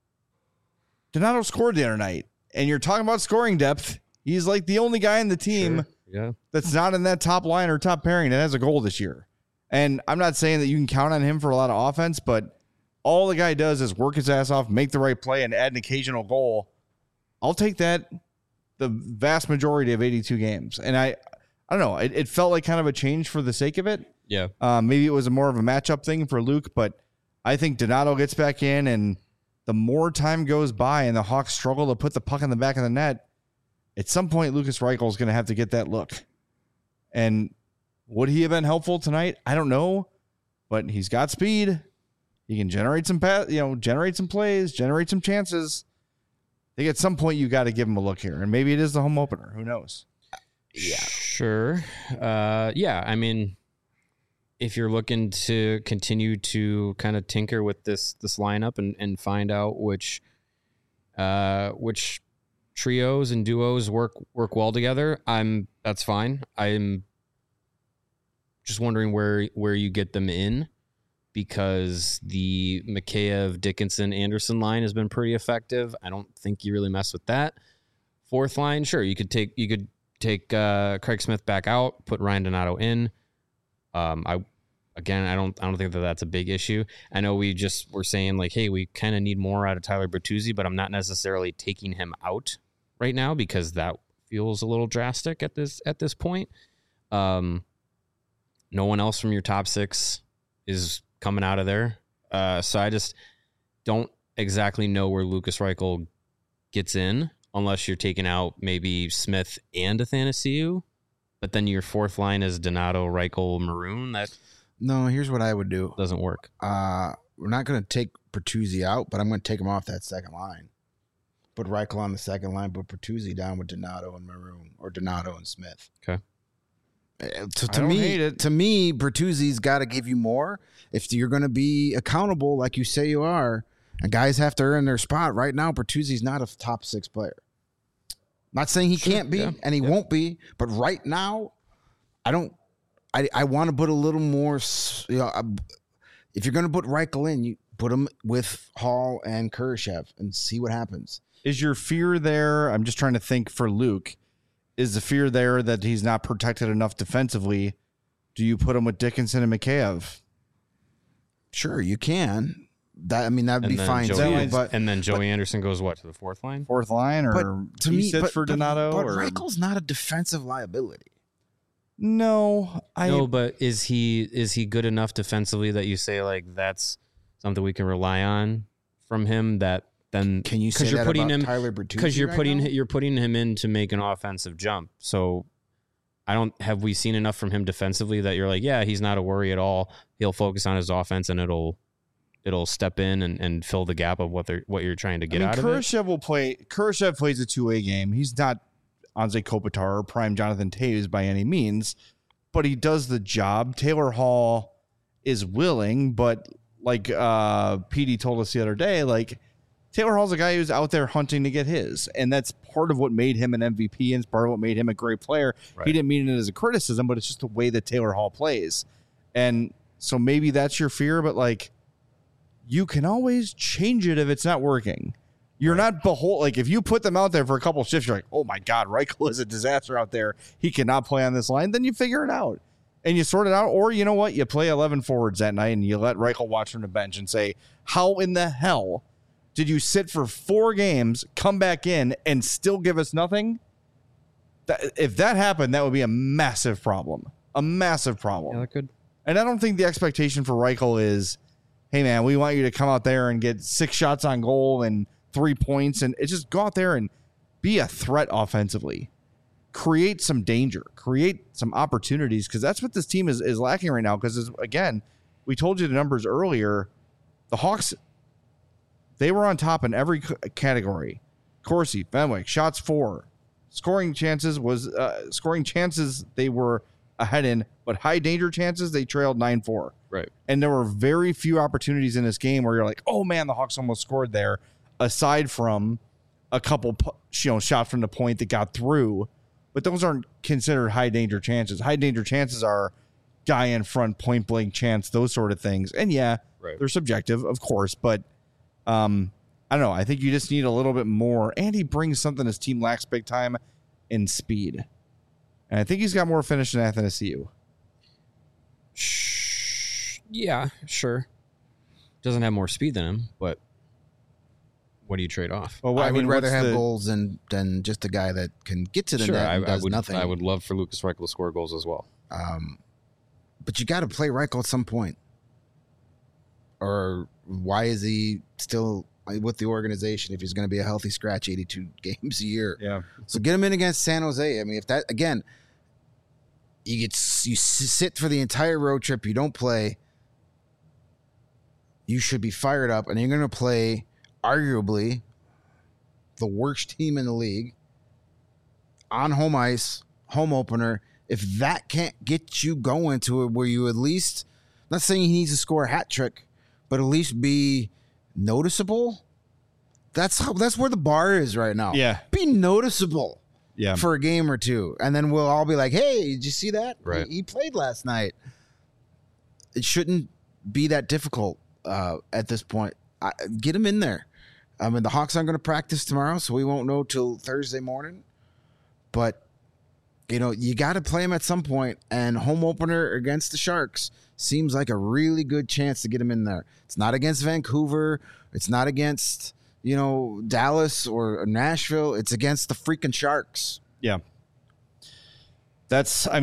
Donato scored the other night. And you're talking about scoring depth. He's like the only guy in the team Yeah. that's not in that top line or top pairing that has a goal this year. And I'm not saying that you can count on him for a lot of offense, but all the guy does is work his ass off, make the right play, and add an occasional goal. I'll take that the vast majority of 82 games. And I don't know. It felt like kind of a change for the sake of it. Yeah. Maybe it was more of a matchup thing for Luke, but I think Donato gets back in, and the more time goes by and the Hawks struggle to put the puck in the back of the net, at some point Lucas Reichel is going to have to get that look. And would he have been helpful tonight? I don't know, but he's got speed. He can generate some generate some plays, generate some chances. I think at some point you got to give him a look here, and maybe it is the home opener. Who knows? Yeah. Sure. Yeah. I mean, if you're looking to continue to kind of tinker with this lineup and find out which trios and duos work well together, that's fine. I'm just wondering where you get them in, because the Mikheyev, Dickinson, Anderson line has been pretty effective. I don't think you really mess with that. Fourth line, sure, you could take Craig Smith back out, put Ryan Donato in. I don't think that's a big issue. I know we just were saying like, hey, we kind of need more out of Tyler Bertuzzi, but I'm not necessarily taking him out right now because that feels a little drastic at this point. No one else from your top six is coming out of there. So I just don't exactly know where Lucas Reichel gets in unless you're taking out maybe Smith and Athanasiou, but then your fourth line is Donato, Reichel, Maroon. That No, here's what I would do. doesn't work. We're not going to take Bertuzzi out, but I'm going to take him off that second line. Put Reichel on the second line, put Bertuzzi down with Donato and Maroon, or Donato and Smith. Okay. To me, Bertuzzi's got to give you more if you're going to be accountable, like you say you are. And guys have to earn their spot. Right now, Bertuzzi's not a top 6 player. Not saying he can't be, and he won't be, but right now, I want to put a little more. If you're going to put Reichel in, you put him with Hall and Kurashev and see what happens. Is your fear there? I'm just trying to think for Luke. Is the fear there that he's not protected enough defensively? Do you put him with Dickinson and Mikheyev? Sure, you can. That'd be fine Joey, too. And then Joey Anderson goes what, to the 4th line? 4th line, or but to me, for Donato? But or Reichel's not a defensive liability. No, but is he good enough defensively that you say like that's something we can rely on from him? That then can you say that about Tyler Bertuzzi? Because you're putting him in to make an offensive jump. So have we seen enough from him defensively that you're like, yeah, he's not a worry at all. He'll focus on his offense and it'll step in and fill the gap of what you're trying to get out of it. Kurashev plays a 2-way game. He's not Anze Kopitar or prime Jonathan Toews by any means, but he does the job. Taylor Hall is willing, but like PD told us the other day, like Taylor Hall's a guy who's out there hunting to get his, and that's part of what made him an MVP and it's part of what made him a great player. Right. He didn't mean it as a criticism, but it's just the way that Taylor Hall plays. And so maybe that's your fear, but like, you can always change it if it's not working. You're not like if you put them out there for a couple of shifts, you're like, oh my God, Reichel is a disaster out there. He cannot play on this line. Then you figure it out and you sort it out. Or you know what? You play 11 forwards that night and you let Reichel watch from the bench and say, how in the hell did you sit for 4 games, come back in and still give us nothing? If that happened, that would be a massive problem. A massive problem. Yeah, that could. And I don't think the expectation for Reichel is, hey, man, we want you to come out there and get 6 shots on goal and 3 points. And it's just go out there and be a threat offensively. Create some danger. Create some opportunities, because that's what this team is lacking right now. Because, again, we told you the numbers earlier. The Hawks, they were on top in every category. Corsi, Fenwick, shots for. Scoring chances they were ahead in, but high danger chances, they trailed 9-4. Right. And there were very few opportunities in this game where you're like, oh man, the Hawks almost scored there, aside from a couple shots from the point that got through. But those aren't considered high danger chances. High danger chances are guy in front, point blank chance, those sort of things. And yeah, they're subjective, of course, but I don't know. I think you just need a little bit more. And he brings something his team lacks big time in speed. And I think he's got more finish than Athanasiou. Yeah, sure. Doesn't have more speed than him, but what do you trade off? Well, I would rather have goals than just a guy that can get to the net and does nothing. I would love for Lucas Reichel to score goals as well. But you got to play Reichel at some point. Or why is he still with the organization if he's going to be a healthy scratch 82 games a year? Yeah. So get him in against San Jose. I mean, if that, again, you sit for the entire road trip, you don't play, you should be fired up, and you're going to play arguably the worst team in the league on home ice, home opener. If that can't get you going to it where you at least, not saying he needs to score a hat trick, but at least be noticeable. That's where the bar is right now. Yeah. Be noticeable for a game or two. And then we'll all be like, hey, did you see that? Right. He played last night. It shouldn't be that difficult at this point. Get him in there. I mean, the Hawks aren't going to practice tomorrow, so we won't know till Thursday morning. But, you got to play him at some point. And home opener against the Sharks seems like a really good chance to get him in there. It's not against Vancouver. It's not against, Dallas or Nashville. It's against the freaking Sharks. Yeah. That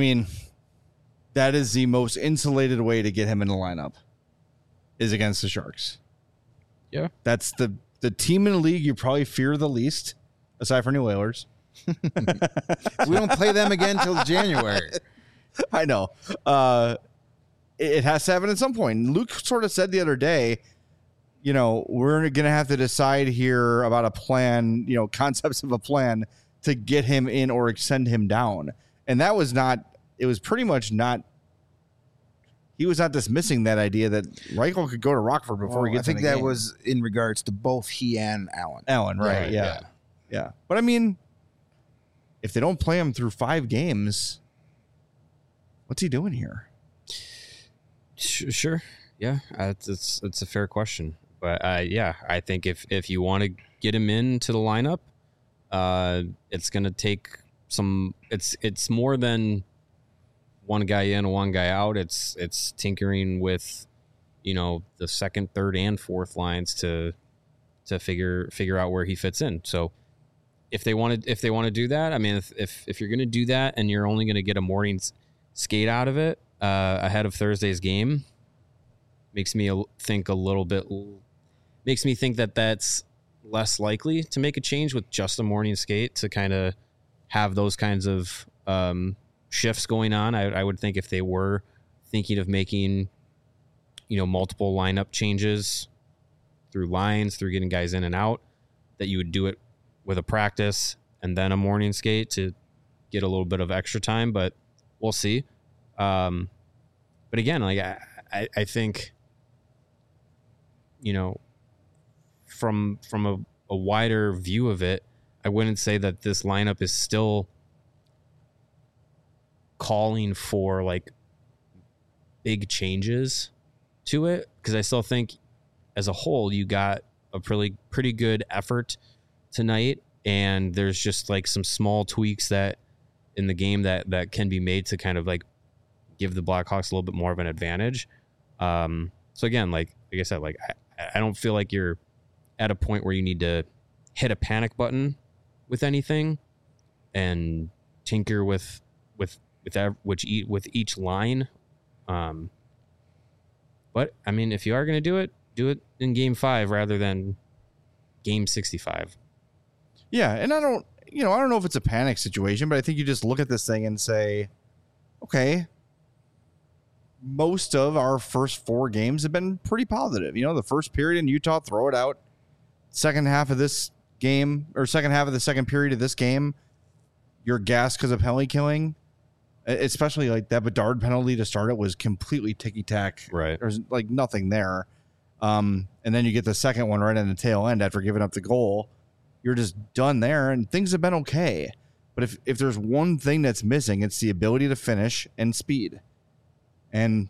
is the most insulated way to get him in the lineup is against the Sharks. Yeah. That's the team in the league you probably fear the least, aside from New Oilers. We don't play them again until January. I know. It has to happen at some point. Luke sort of said the other day, we're going to have to decide here about a plan, concepts of a plan to get him in or extend him down. And that was not it was pretty much not. He was not dismissing that idea that Reichel could go to Rockford before he gets. I think in the that game. was in regards to both he and Allen. Allen, right? Yeah. But I mean, if they don't play him through 5 games, what's he doing here? Sure. Yeah, it's a fair question, but I think if you want to get him into the lineup, it's going to take some. It's more than one guy in, one guy out. It's tinkering with, the second, third, and fourth lines to figure out where he fits in. So if they want to do that, I mean, if you're going to do that and you're only going to get a morning skate out of it ahead of Thursday's game, makes me think that that's less likely to make a change with just a morning skate to kind of have those kinds of shifts going on. I would think if they were thinking of making, multiple lineup changes through lines, through getting guys in and out, that you would do it with a practice and then a morning skate to get a little bit of extra time, but we'll see. But again, like I think, from a wider view of it, I wouldn't say that this lineup is still calling for like big changes to it, because I still think as a whole you got a pretty good effort tonight, and there's just like some small tweaks that in the game that can be made to kind of like give the Blackhawks a little bit more of an advantage. So again, like I said, like I don't feel like you're at a point where you need to hit a panic button with anything and tinker with each line. But I mean, if you are going to do it in Game 5 rather than Game 65. Yeah, and I don't know if it's a panic situation, but I think you just look at this thing and say, okay, most of our first 4 games have been pretty positive. The first period in Utah, throw it out. Second half of this game, or second half of the second period of this game, you're gassed because of penalty killing. Especially like that Bedard penalty to start it was completely ticky-tack. Right. There's like nothing there. And then you get the second one right on the tail end after giving up the goal. You're just done there, and things have been okay. But if there's one thing that's missing, it's the ability to finish and speed. And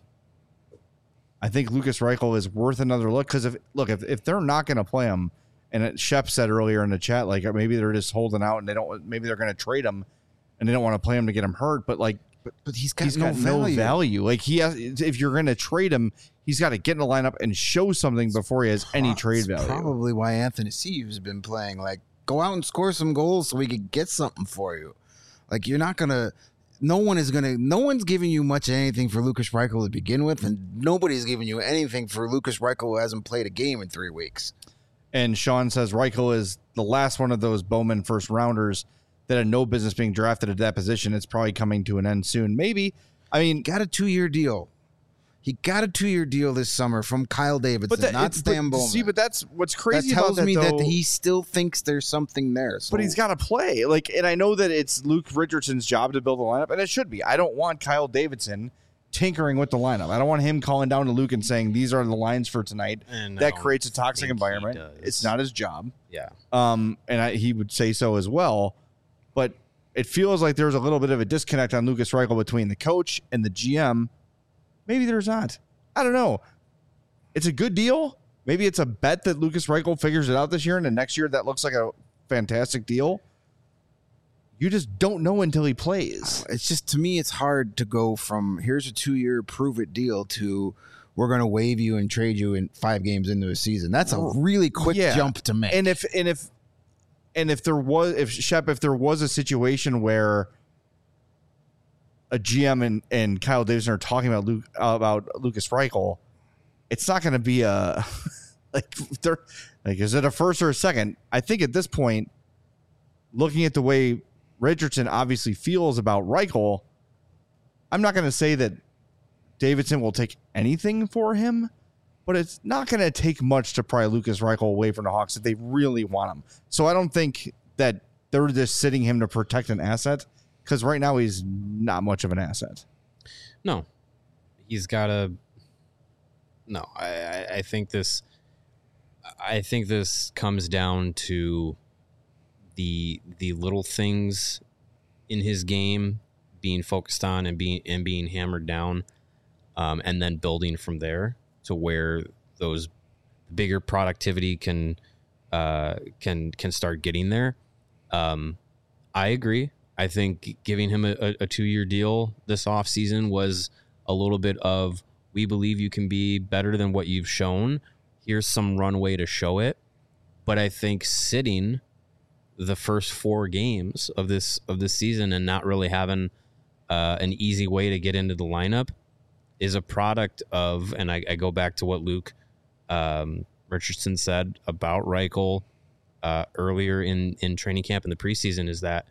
I think Lukas Reichel is worth another look, because if they're not going to play him, and Shep said earlier in the chat, like maybe they're just holding out and maybe they're going to trade him and they don't want to play him to get him hurt. But like, but he's got no value. Like if you're going to trade him, he's got to get in the lineup and show something before he has any trade value. Probably why Anthony Sieve has been playing. Like, go out and score some goals so we could get something for you. Like, you're not going to. No one's giving you much of anything for Lukas Reichel to begin with, and nobody's giving you anything for Lukas Reichel who hasn't played a game in 3 weeks. And Sean says Reichel is the last one of those Bowman first rounders that had no business being drafted at that position. It's probably coming to an end soon. Maybe. I mean, got a 2-year deal. He got a 2-year deal this summer from Kyle Davidson, not Stan Bowman. See, but that's what's crazy that tells about that, me though, that he still thinks there's something there. So. But he's got to play. Like, and I know that it's Luke Richardson's job to build a lineup, and it should be. I don't want Kyle Davidson tinkering with the lineup. I don't want him calling down to Luke and saying these are the lines for tonight. And that creates a toxic environment. It's not his job. Yeah. And he would say so as well. But it feels like there's a little bit of a disconnect on Lukas Reichel between the coach and the GM. Maybe there's not. I don't know. It's a good deal. Maybe it's a bet that Lukas Reichel figures it out this year, and then next year that looks like a fantastic deal. You just don't know until he plays. It's just, to me, it's hard to go from here's a 2-year prove it deal to we're going to waive you and trade you in 5 games into a season. That's a really quick jump to make. And if there was a situation where a GM and Kyle Davidson are talking about Lukas Reichel, it's not going to be a is it a first or a second? I think at this point, looking at the way Richardson obviously feels about Reichel, I'm not going to say that Davidson will take anything for him, but it's not going to take much to pry Lukas Reichel away from the Hawks if they really want him. So I don't think that they're just sitting him to protect an asset. Because right now he's not much of an asset. No, he's got to. No, I think this. I think this comes down to the little things in his game being focused on and being hammered down, and then building from there to where those bigger productivity can start getting there. I agree. I think giving him a 2-year deal this offseason was a little bit of, we believe you can be better than what you've shown. Here's some runway to show it. But I think sitting the first 4 games of this season and not really having an easy way to get into the lineup is a product of, and I go back to what Luke Richardson said about Reichel earlier in training camp in the preseason, is that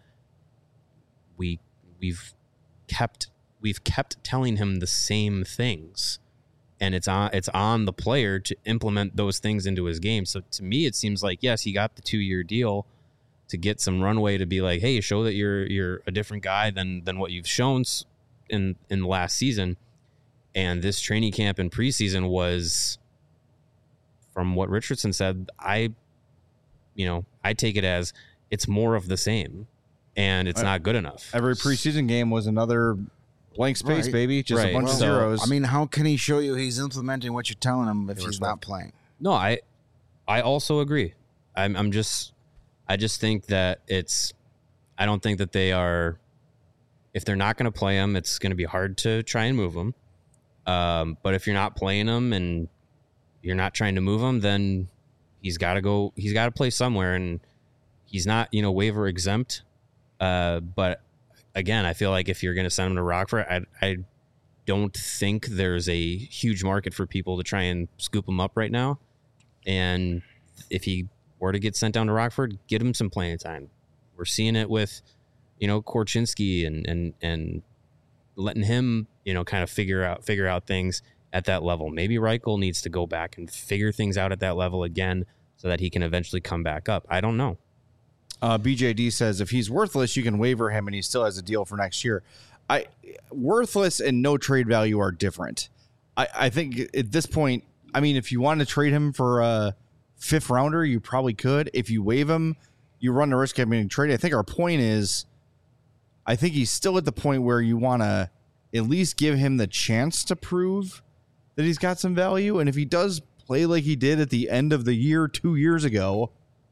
we've kept telling him the same things, and it's on the player to implement those things into his game. So to me, it seems like, yes, he got the 2-year deal to get some runway to be like, hey, show that you're a different guy than what you've shown in the last season. And this training camp and preseason was, from what Richardson said, I take it as it's more of the same, and it's not good enough. Every preseason game was another blank space, baby. Just a bunch of zeros. I mean, how can he show you he's implementing what you're telling him if he's not playing? No, I also agree. I just think that I don't think that they are, if they're not going to play him, it's going to be hard to try and move him. But if you're not playing him and you're not trying to move him, then he's got to play somewhere, and he's not, waiver exempt. But again, I feel like if you're going to send him to Rockford, I don't think there's a huge market for people to try and scoop him up right now. And if he were to get sent down to Rockford, get him some playing time. We're seeing it with, Korchinski and letting him, kind of figure out things at that level. Maybe Reichel needs to go back and figure things out at that level again so that he can eventually come back up. I don't know. BJD says if he's worthless, you can waiver him and he still has a deal for next year. Worthless and no trade value are different. I think at this point, I mean, if you want to trade him for a 5th rounder, you probably could. If you waive him, you run the risk of being traded. I think our point is, I think he's still at the point where you want to at least give him the chance to prove that he's got some value. And if he does play like he did at the end of the year 2 years ago,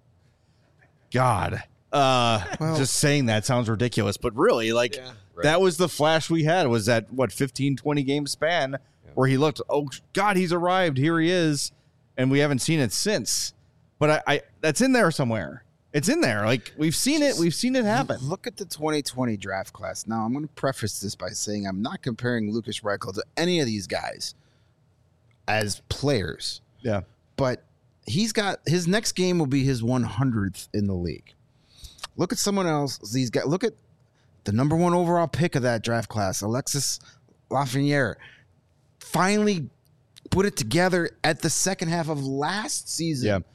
God, just saying that sounds ridiculous, but really, that was the flash we had, was that 15, 20 game span where he looked, oh God, he's arrived. Here he is. And we haven't seen it since, but I that's in there somewhere. It's in there. Like, we've seen it. We've seen it happen. Look at the 2020 draft class. Now, I'm going to preface this by saying I'm not comparing Lukas Reichel to any of these guys as players. Yeah. But he's got, his next game will be his 100th in the league. Look at someone else. These guys. Look at the number 1 overall pick of that draft class, Alexis Lafreniere. Finally put it together at the second half of last season. Yeah.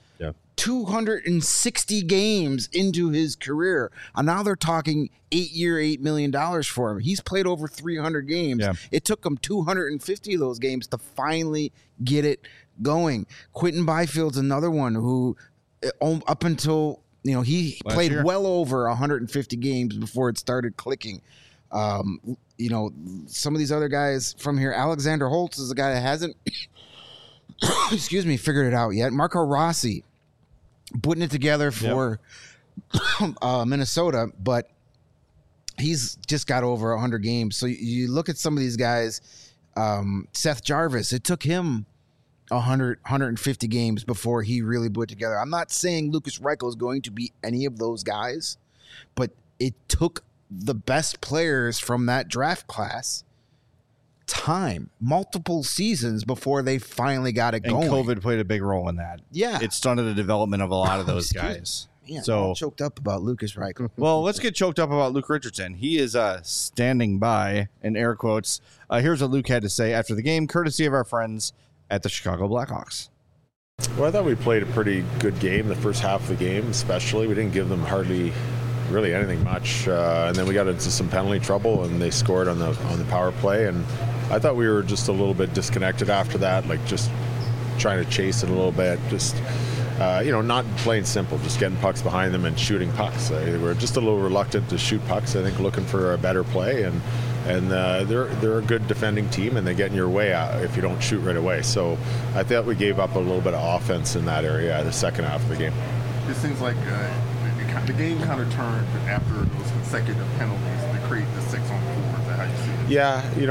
260 games into his career. And now they're talking 8-year, $8 million for him. He's played over 300 games. Yeah. It took him 250 of those games to finally get it going. Quentin Byfield's another one who, up until, he played well over 150 games before it started clicking. Some of these other guys from here, Alexander Holtz is a guy that hasn't, figured it out yet. Marco Rossi, putting it together for Minnesota, but he's just got over 100 games. So you look at some of these guys, Seth Jarvis, it took him 150 games before he really put it together. I'm not saying Lukas Reichel is going to be any of those guys, but it took the best players from that draft class multiple seasons before they finally got it going. And COVID played a big role in that. Yeah. It stunted the development of a lot of those guys. Man, so I'm all choked up about Lukas Reichel. Well, let's get choked up about Luke Richardson. He is standing by, in air quotes. Here's what Luke had to say after the game, courtesy of our friends at the Chicago Blackhawks. Well, I thought we played a pretty good game, the first half of the game especially. We didn't give them hardly really anything much. And then we got into some penalty trouble, and they scored on the power play. And I thought we were just a little bit disconnected after that, like just trying to chase it a little bit, just not playing simple, just getting pucks behind them and shooting pucks. We're just a little reluctant to shoot pucks. I think looking for a better play, and they're a good defending team, and they get in your way if you don't shoot right away. So I thought we gave up a little bit of offense in that area the second half of the game. It seems like the game kind of turned after those consecutive penalties to create the 6-on-4. Is that how you see it?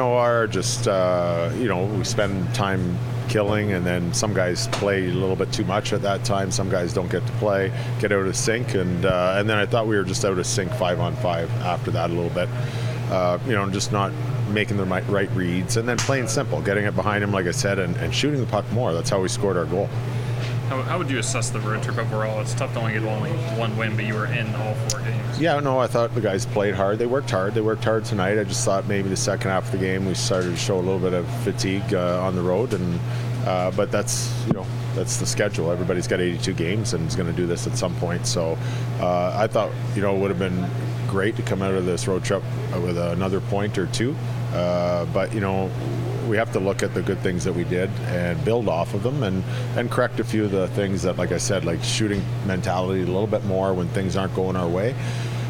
Yeah, we spend time killing, and then some guys play a little bit too much at that time. Some guys don't get to get out of sync, and then I thought we were just out of sync 5-on-5 after that a little bit. Just not making the right reads, and then playing simple, getting it behind him, like I said, and shooting the puck more. That's how we scored our goal. How would you assess the road trip overall? It's tough to only get one win, but you were in all 4 games. Yeah, no, I thought the guys played hard. They worked hard. They worked hard tonight. I just thought maybe the second half of the game we started to show a little bit of fatigue on the road, and but that's the schedule. Everybody's got 82 games and is going to do this at some point. So I thought it would have been great to come out of this road trip with another point or two, but we have to look at the good things that we did and build off of them, and correct a few of the things that, like I said, like shooting mentality a little bit more when things aren't going our way,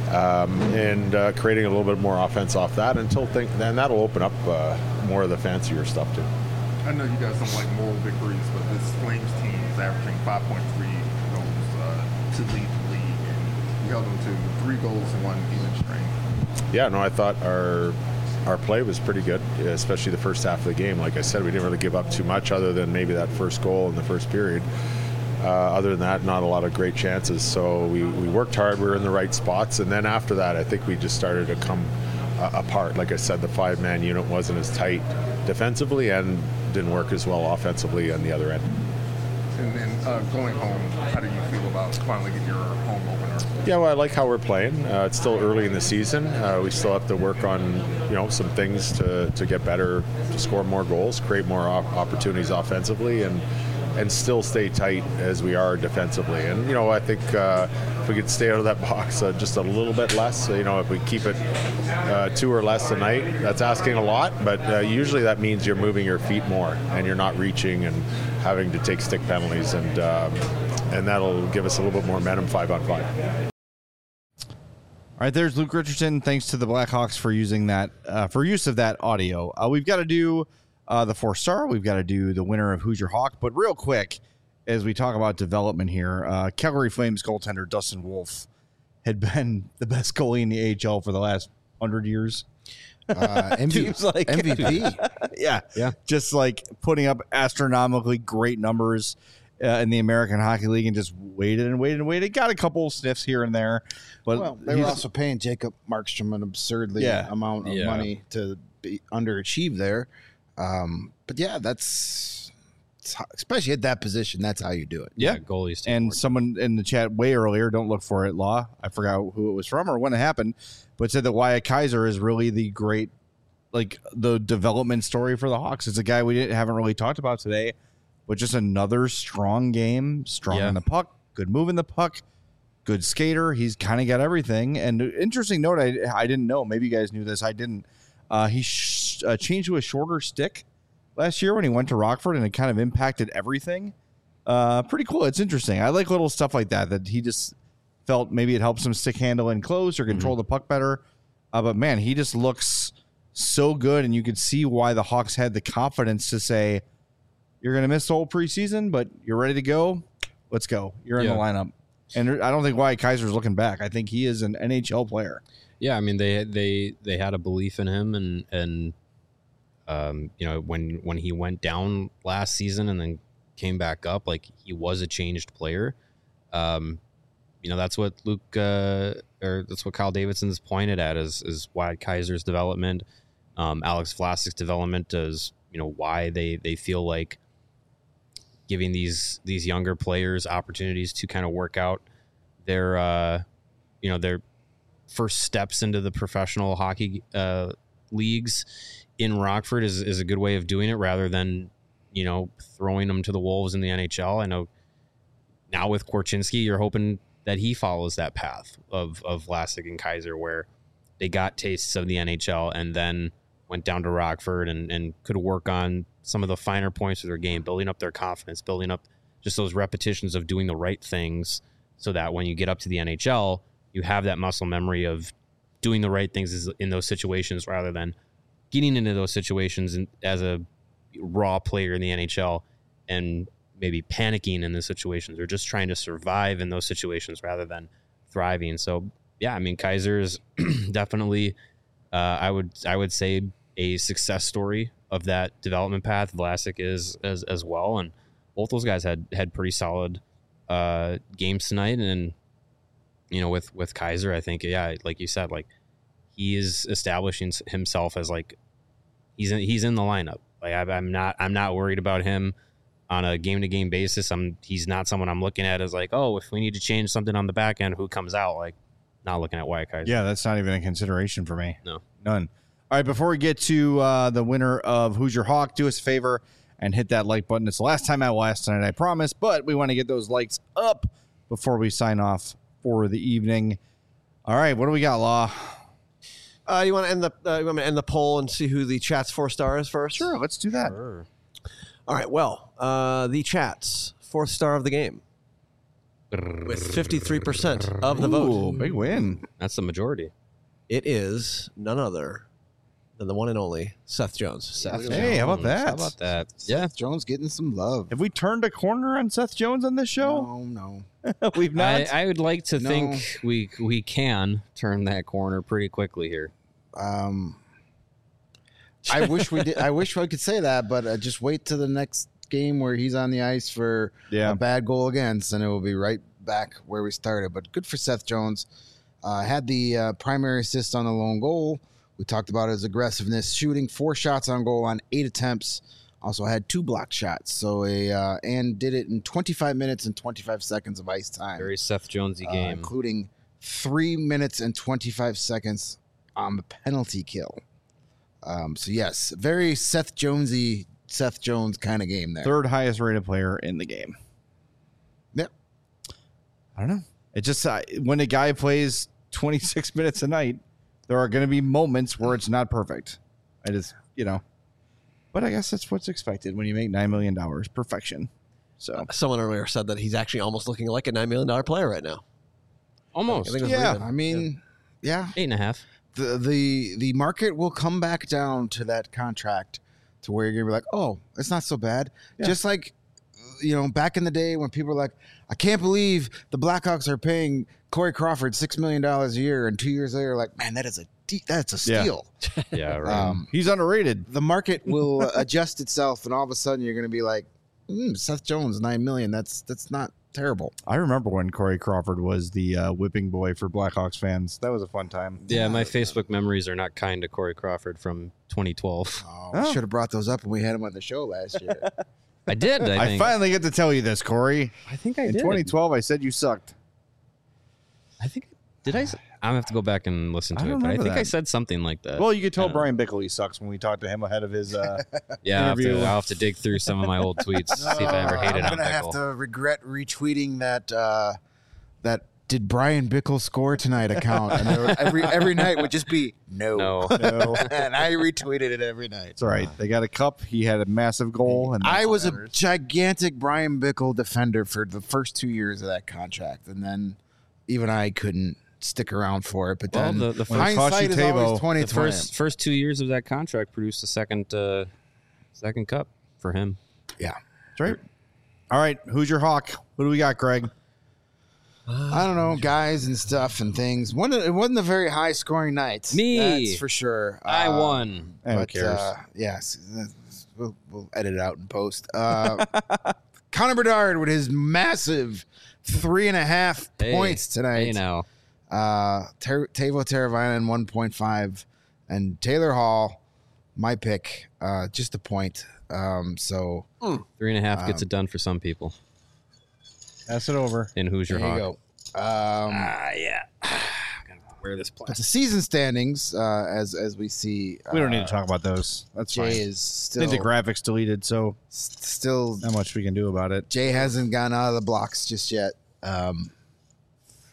and creating a little bit more offense off that then that'll open up more of the fancier stuff too. I know you guys don't like moral victories, but this Flames team is averaging 5.3 goals to lead the league, and you held them to 3 goals and 1 even strength. Yeah, no, I thought our play was pretty good, especially the first half of the game. Like I said, we didn't really give up too much other than maybe that first goal in the first period. Other than that, not a lot of great chances. So we worked hard. We were in the right spots. And then after that, I think we just started to come apart. Like I said, the 5-man unit wasn't as tight defensively and didn't work as well offensively on the other end. And then going home, how do you feel about finally getting your home opener? Yeah, well, I like how we're playing. It's still early in the season. We still have to work on, some things to get better, to score more goals, create more opportunities offensively, and still stay tight as we are defensively. And, I think if we could stay out of that box just a little bit less, if we keep it 2 or less tonight, that's asking a lot, but usually that means you're moving your feet more and you're not reaching and having to take stick penalties, and that'll give us a little bit more momentum 5-on-5. All right, there's Luke Richardson. Thanks to the Blackhawks for using that for use of that audio. We've got to do the 4-star. We've got to do the winner of Who's Your Hawk. But real quick, as we talk about development here, Calgary Flames goaltender Dustin Wolf had been the best goalie in the AHL for the last 100 years. MVP. Yeah. Just like putting up astronomically great numbers in the American Hockey League, and just waited. Got a couple sniffs here and there. But they were also paying Jacob Markstrom an absurdly amount of money to be underachieve there. But yeah, that's especially at that position. That's how you do it. Yeah, goalies. And someone in the chat way earlier, don't look for it, Law. I forgot who it was from or when it happened, but said that Wyatt Kaiser is really the great, like the development story for the Hawks. It's a guy we haven't really talked about today, but just another strong game, strong in the puck, good move in the puck, good skater. He's kind of got everything. And interesting note, I didn't know. Maybe you guys knew this. I didn't. He changed to a shorter stick last year when he went to Rockford, and it kind of impacted everything. Pretty cool. It's interesting. I like little stuff like that he just felt maybe it helps him stick handle in close or control the puck better. But man, he just looks so good, and you could see why the Hawks had the confidence to say, you're going to miss the whole preseason, but you're ready to go. Let's go. You're in the lineup. And I don't think Wyatt Kaiser's looking back. I think he is an NHL player. Yeah, I mean they had a belief in him, and when he went down last season and then came back up, like he was a changed player. That's what Luke or that's what Kyle Davidson's pointed at is Wyatt Kaiser's development, Alex Vlasic's development is why they feel like giving these younger players opportunities to kind of work out their first steps into the professional hockey leagues in Rockford is a good way of doing it rather than, throwing them to the wolves in the NHL. I know now with Korchinski, you're hoping that he follows that path of Vlasic and Kaiser, where they got tastes of the NHL and then went down to Rockford and could work on some of the finer points of their game, building up their confidence, building up just those repetitions of doing the right things so that when you get up to the NHL, you have that muscle memory of doing the right things in those situations rather than getting into those situations as a raw player in the NHL and maybe panicking in those situations or just trying to survive in those situations rather than thriving. So, yeah, I mean, Kaiser's definitely, I would say, a success story of that development path. Vlasic is as well, and both those guys had pretty solid games tonight. And you know, with Kaiser, I think, yeah, like you said, like he is establishing himself as like he's in the lineup. Like I'm not worried about him on a game-to-game basis. He's not someone I'm looking at as like, oh, if we need to change something on the back end, who comes out? Like, not looking at Wyatt Kaiser. Yeah, that's not even a consideration for me. No. None. All right, before we get to the winner of Who's Your Hawk, do us a favor and hit that like button. It's the last time I will ask tonight, I promise, but we want to get those likes up before we sign off for the evening. All right, what do we got, Law? You want to end the poll and see who the chat's 4 star is first? Sure, let's do that. Sure. All right. Well, the chat's 4th star of the game with 53% of the vote. Big win. That's the majority. It is none other than the one and only Seth Jones. Hey, how about that? How about that? Yeah. Seth Jones getting some love. Have we turned a corner on Seth Jones on this show? No. We've not. I would like to No. think we can turn that corner pretty quickly here. I wish we did. I wish I could say that, but just wait to the next game where he's on the ice for Yeah. a bad goal against, and it will be right back where we started. But good for Seth Jones. Had the primary assist on the lone goal. We talked about his aggressiveness, shooting 4 shots on goal on 8 attempts. Also had 2 blocked shots. So and did it in 25 minutes and 25 seconds of ice time, Very Seth Jonesy game. including 3 minutes and 25 seconds on the penalty kill. So yes, very Seth Jones kind of game there. Third highest rated player in the game. Yep. I don't know. It just when a guy plays 26 minutes a night, there are going to be moments where it's not perfect. I just, but I guess that's what's expected when you make $9 million. Perfection. So Someone earlier said that he's actually almost looking like a $9 million player right now. Almost. I think it was Yeah. Lehman. I mean, yeah. 8.5. The market will come back down to that contract to where you're gonna be like, oh, it's not so bad. Yeah. Just like back in the day when people were like, I can't believe the Blackhawks are paying Corey Crawford $6 million a year, and 2 years later, like, man, that's a Yeah. steal. Yeah, right. he's underrated. The market will adjust itself, and all of a sudden, you're gonna be like, Seth Jones, $9 million. That's not terrible. I remember when Corey Crawford was the whipping boy for Blackhawks fans. That was a fun time. Yeah, my Facebook memories are not kind to Corey Crawford from 2012. Oh, should have brought those up when we had him on the show last year. I did. I I think. finally get to tell you this, Corey. I think I In did. 2012, I said you sucked. I think did I? I'm gonna have to go back and listen I to it. don't But I remember think I that. said something like that. Well, you could tell I don't know. Brian Bickle he sucks when we talked to him ahead of his. Yeah, interview. I'll have to dig through some of my old tweets, see if I ever hated I'm on gonna have Pickle. to regret retweeting that did Brian Bickle score tonight account, and there were- every night would just be no, No. and I retweeted it every night. It's all right. They got a cup. He had a massive goal, and I that's was what a matters. gigantic Brian Bickle defender for the first 2 years of that contract, and then even I couldn't stick around for it. But Well, then the When it cost hindsight you is Tabo, always 20/20. The first 2 years of that contract produced a second cup for him. Yeah, That's right. All right. Who's your Hawk? What do we got, Greg? I don't know, guys and stuff and things. It wasn't a very high scoring night. Me. That's for sure. I won. Who But, cares? yes, we'll edit it out in post. Connor Bedard with his massive 3.5 points tonight. Hey, now. Tavo Teravainen 1.5, and Taylor Hall, my pick, just a point. So 3.5 gets it done for some people. Pass it over. And who's your there you Hawk? go. Yeah. Gotta wear this But plastic. the season standings, as we see, We don't need to talk about those. That's Jay fine. is I still think the graphics deleted, so still not much we can do about it. Jay hasn't gone out of the blocks just yet.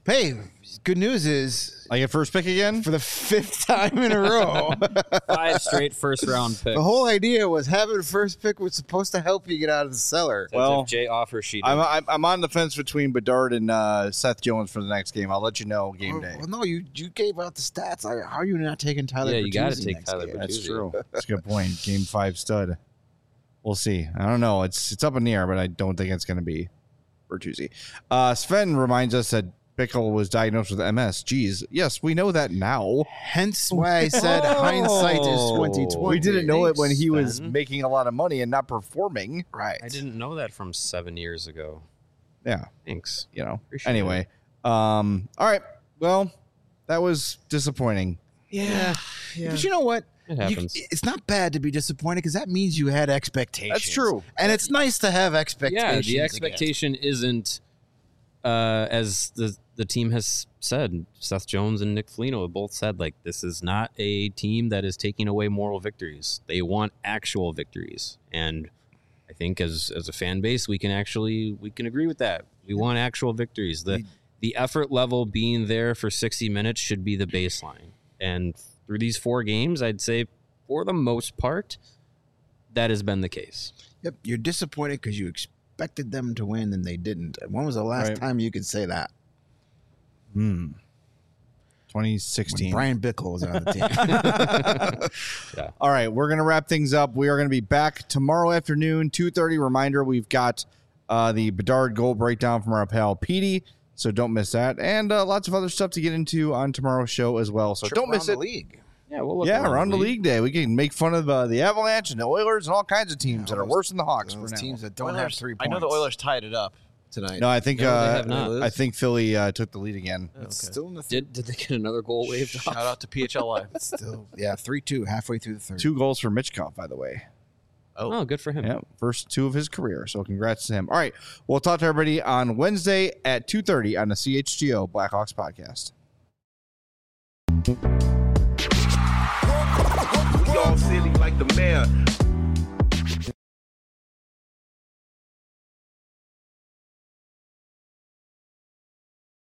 Hey, good news is I get first pick again? for the 5th time in a row. 5 straight first-round picks. The whole idea was having first pick was supposed to help you get out of the cellar. That's Well, if Jay offers she did. I'm on the fence between Bedard and Seth Jones for the next game. I'll let you know game day. Well, no, you gave out the stats. How are you not taking Tyler? Yeah, you got to Bertuzzi take next Tyler game? Bertuzzi. That's true. That's a good point. Game 5 stud. We'll see. I don't know. It's up in the air, but I don't think it's going to be Bertuzzi. Sven reminds us that Bickle was diagnosed with MS. Geez, yes, we know that now. Hence why I said hindsight is 2020. We didn't know it when he was Sven. making a lot of money and not performing. Right. I didn't know that from 7 years ago. Yeah, Thanks. you know. Appreciate Anyway, all right. Well, that was disappointing. Yeah. But you know what? It happens. It's not bad to be disappointed because that means you had expectations. That's true. And it's nice to have expectations. Yeah, the expectation isn't, as the team has said, Seth Jones and Nick Foligno have both said, like, this is not a team that is taking away moral victories. They want actual victories. And I think as a fan base, we can agree with that. We want actual victories. The effort level being there for 60 minutes should be the baseline. And through these 4 games, I'd say for the most part, that has been the case. Yep. You're disappointed because you expected them to win and they didn't. When was the last Right. time you could say that? 2016. When Brian Bickle was on the team. All right, we're going to wrap things up. We are going to be back tomorrow afternoon, 2:30. Reminder, we've got the Bedard goal breakdown from our pal Petey, so don't miss that. And lots of other stuff to get into on tomorrow's show as well, so don't miss it. League. Yeah, we'll look Around the league day. We can make fun of the Avalanche and the Oilers and all kinds of teams that are worse than the Hawks for Those now. teams that don't have 3 points. I know the Oilers tied it up tonight. No, I think No, they have not. I think Philly took the lead again. It's still in the Did they get another goal waved Shout off? out to PHLY. still 3-2 halfway through the third. 2 goals for Mitchkov, by the way. Oh, good for him. Yeah, first 2 of his career. So congrats to him. All right, we'll talk to everybody on Wednesday at 2:30 on the CHGO Blackhawks podcast. We all silly like the mayor.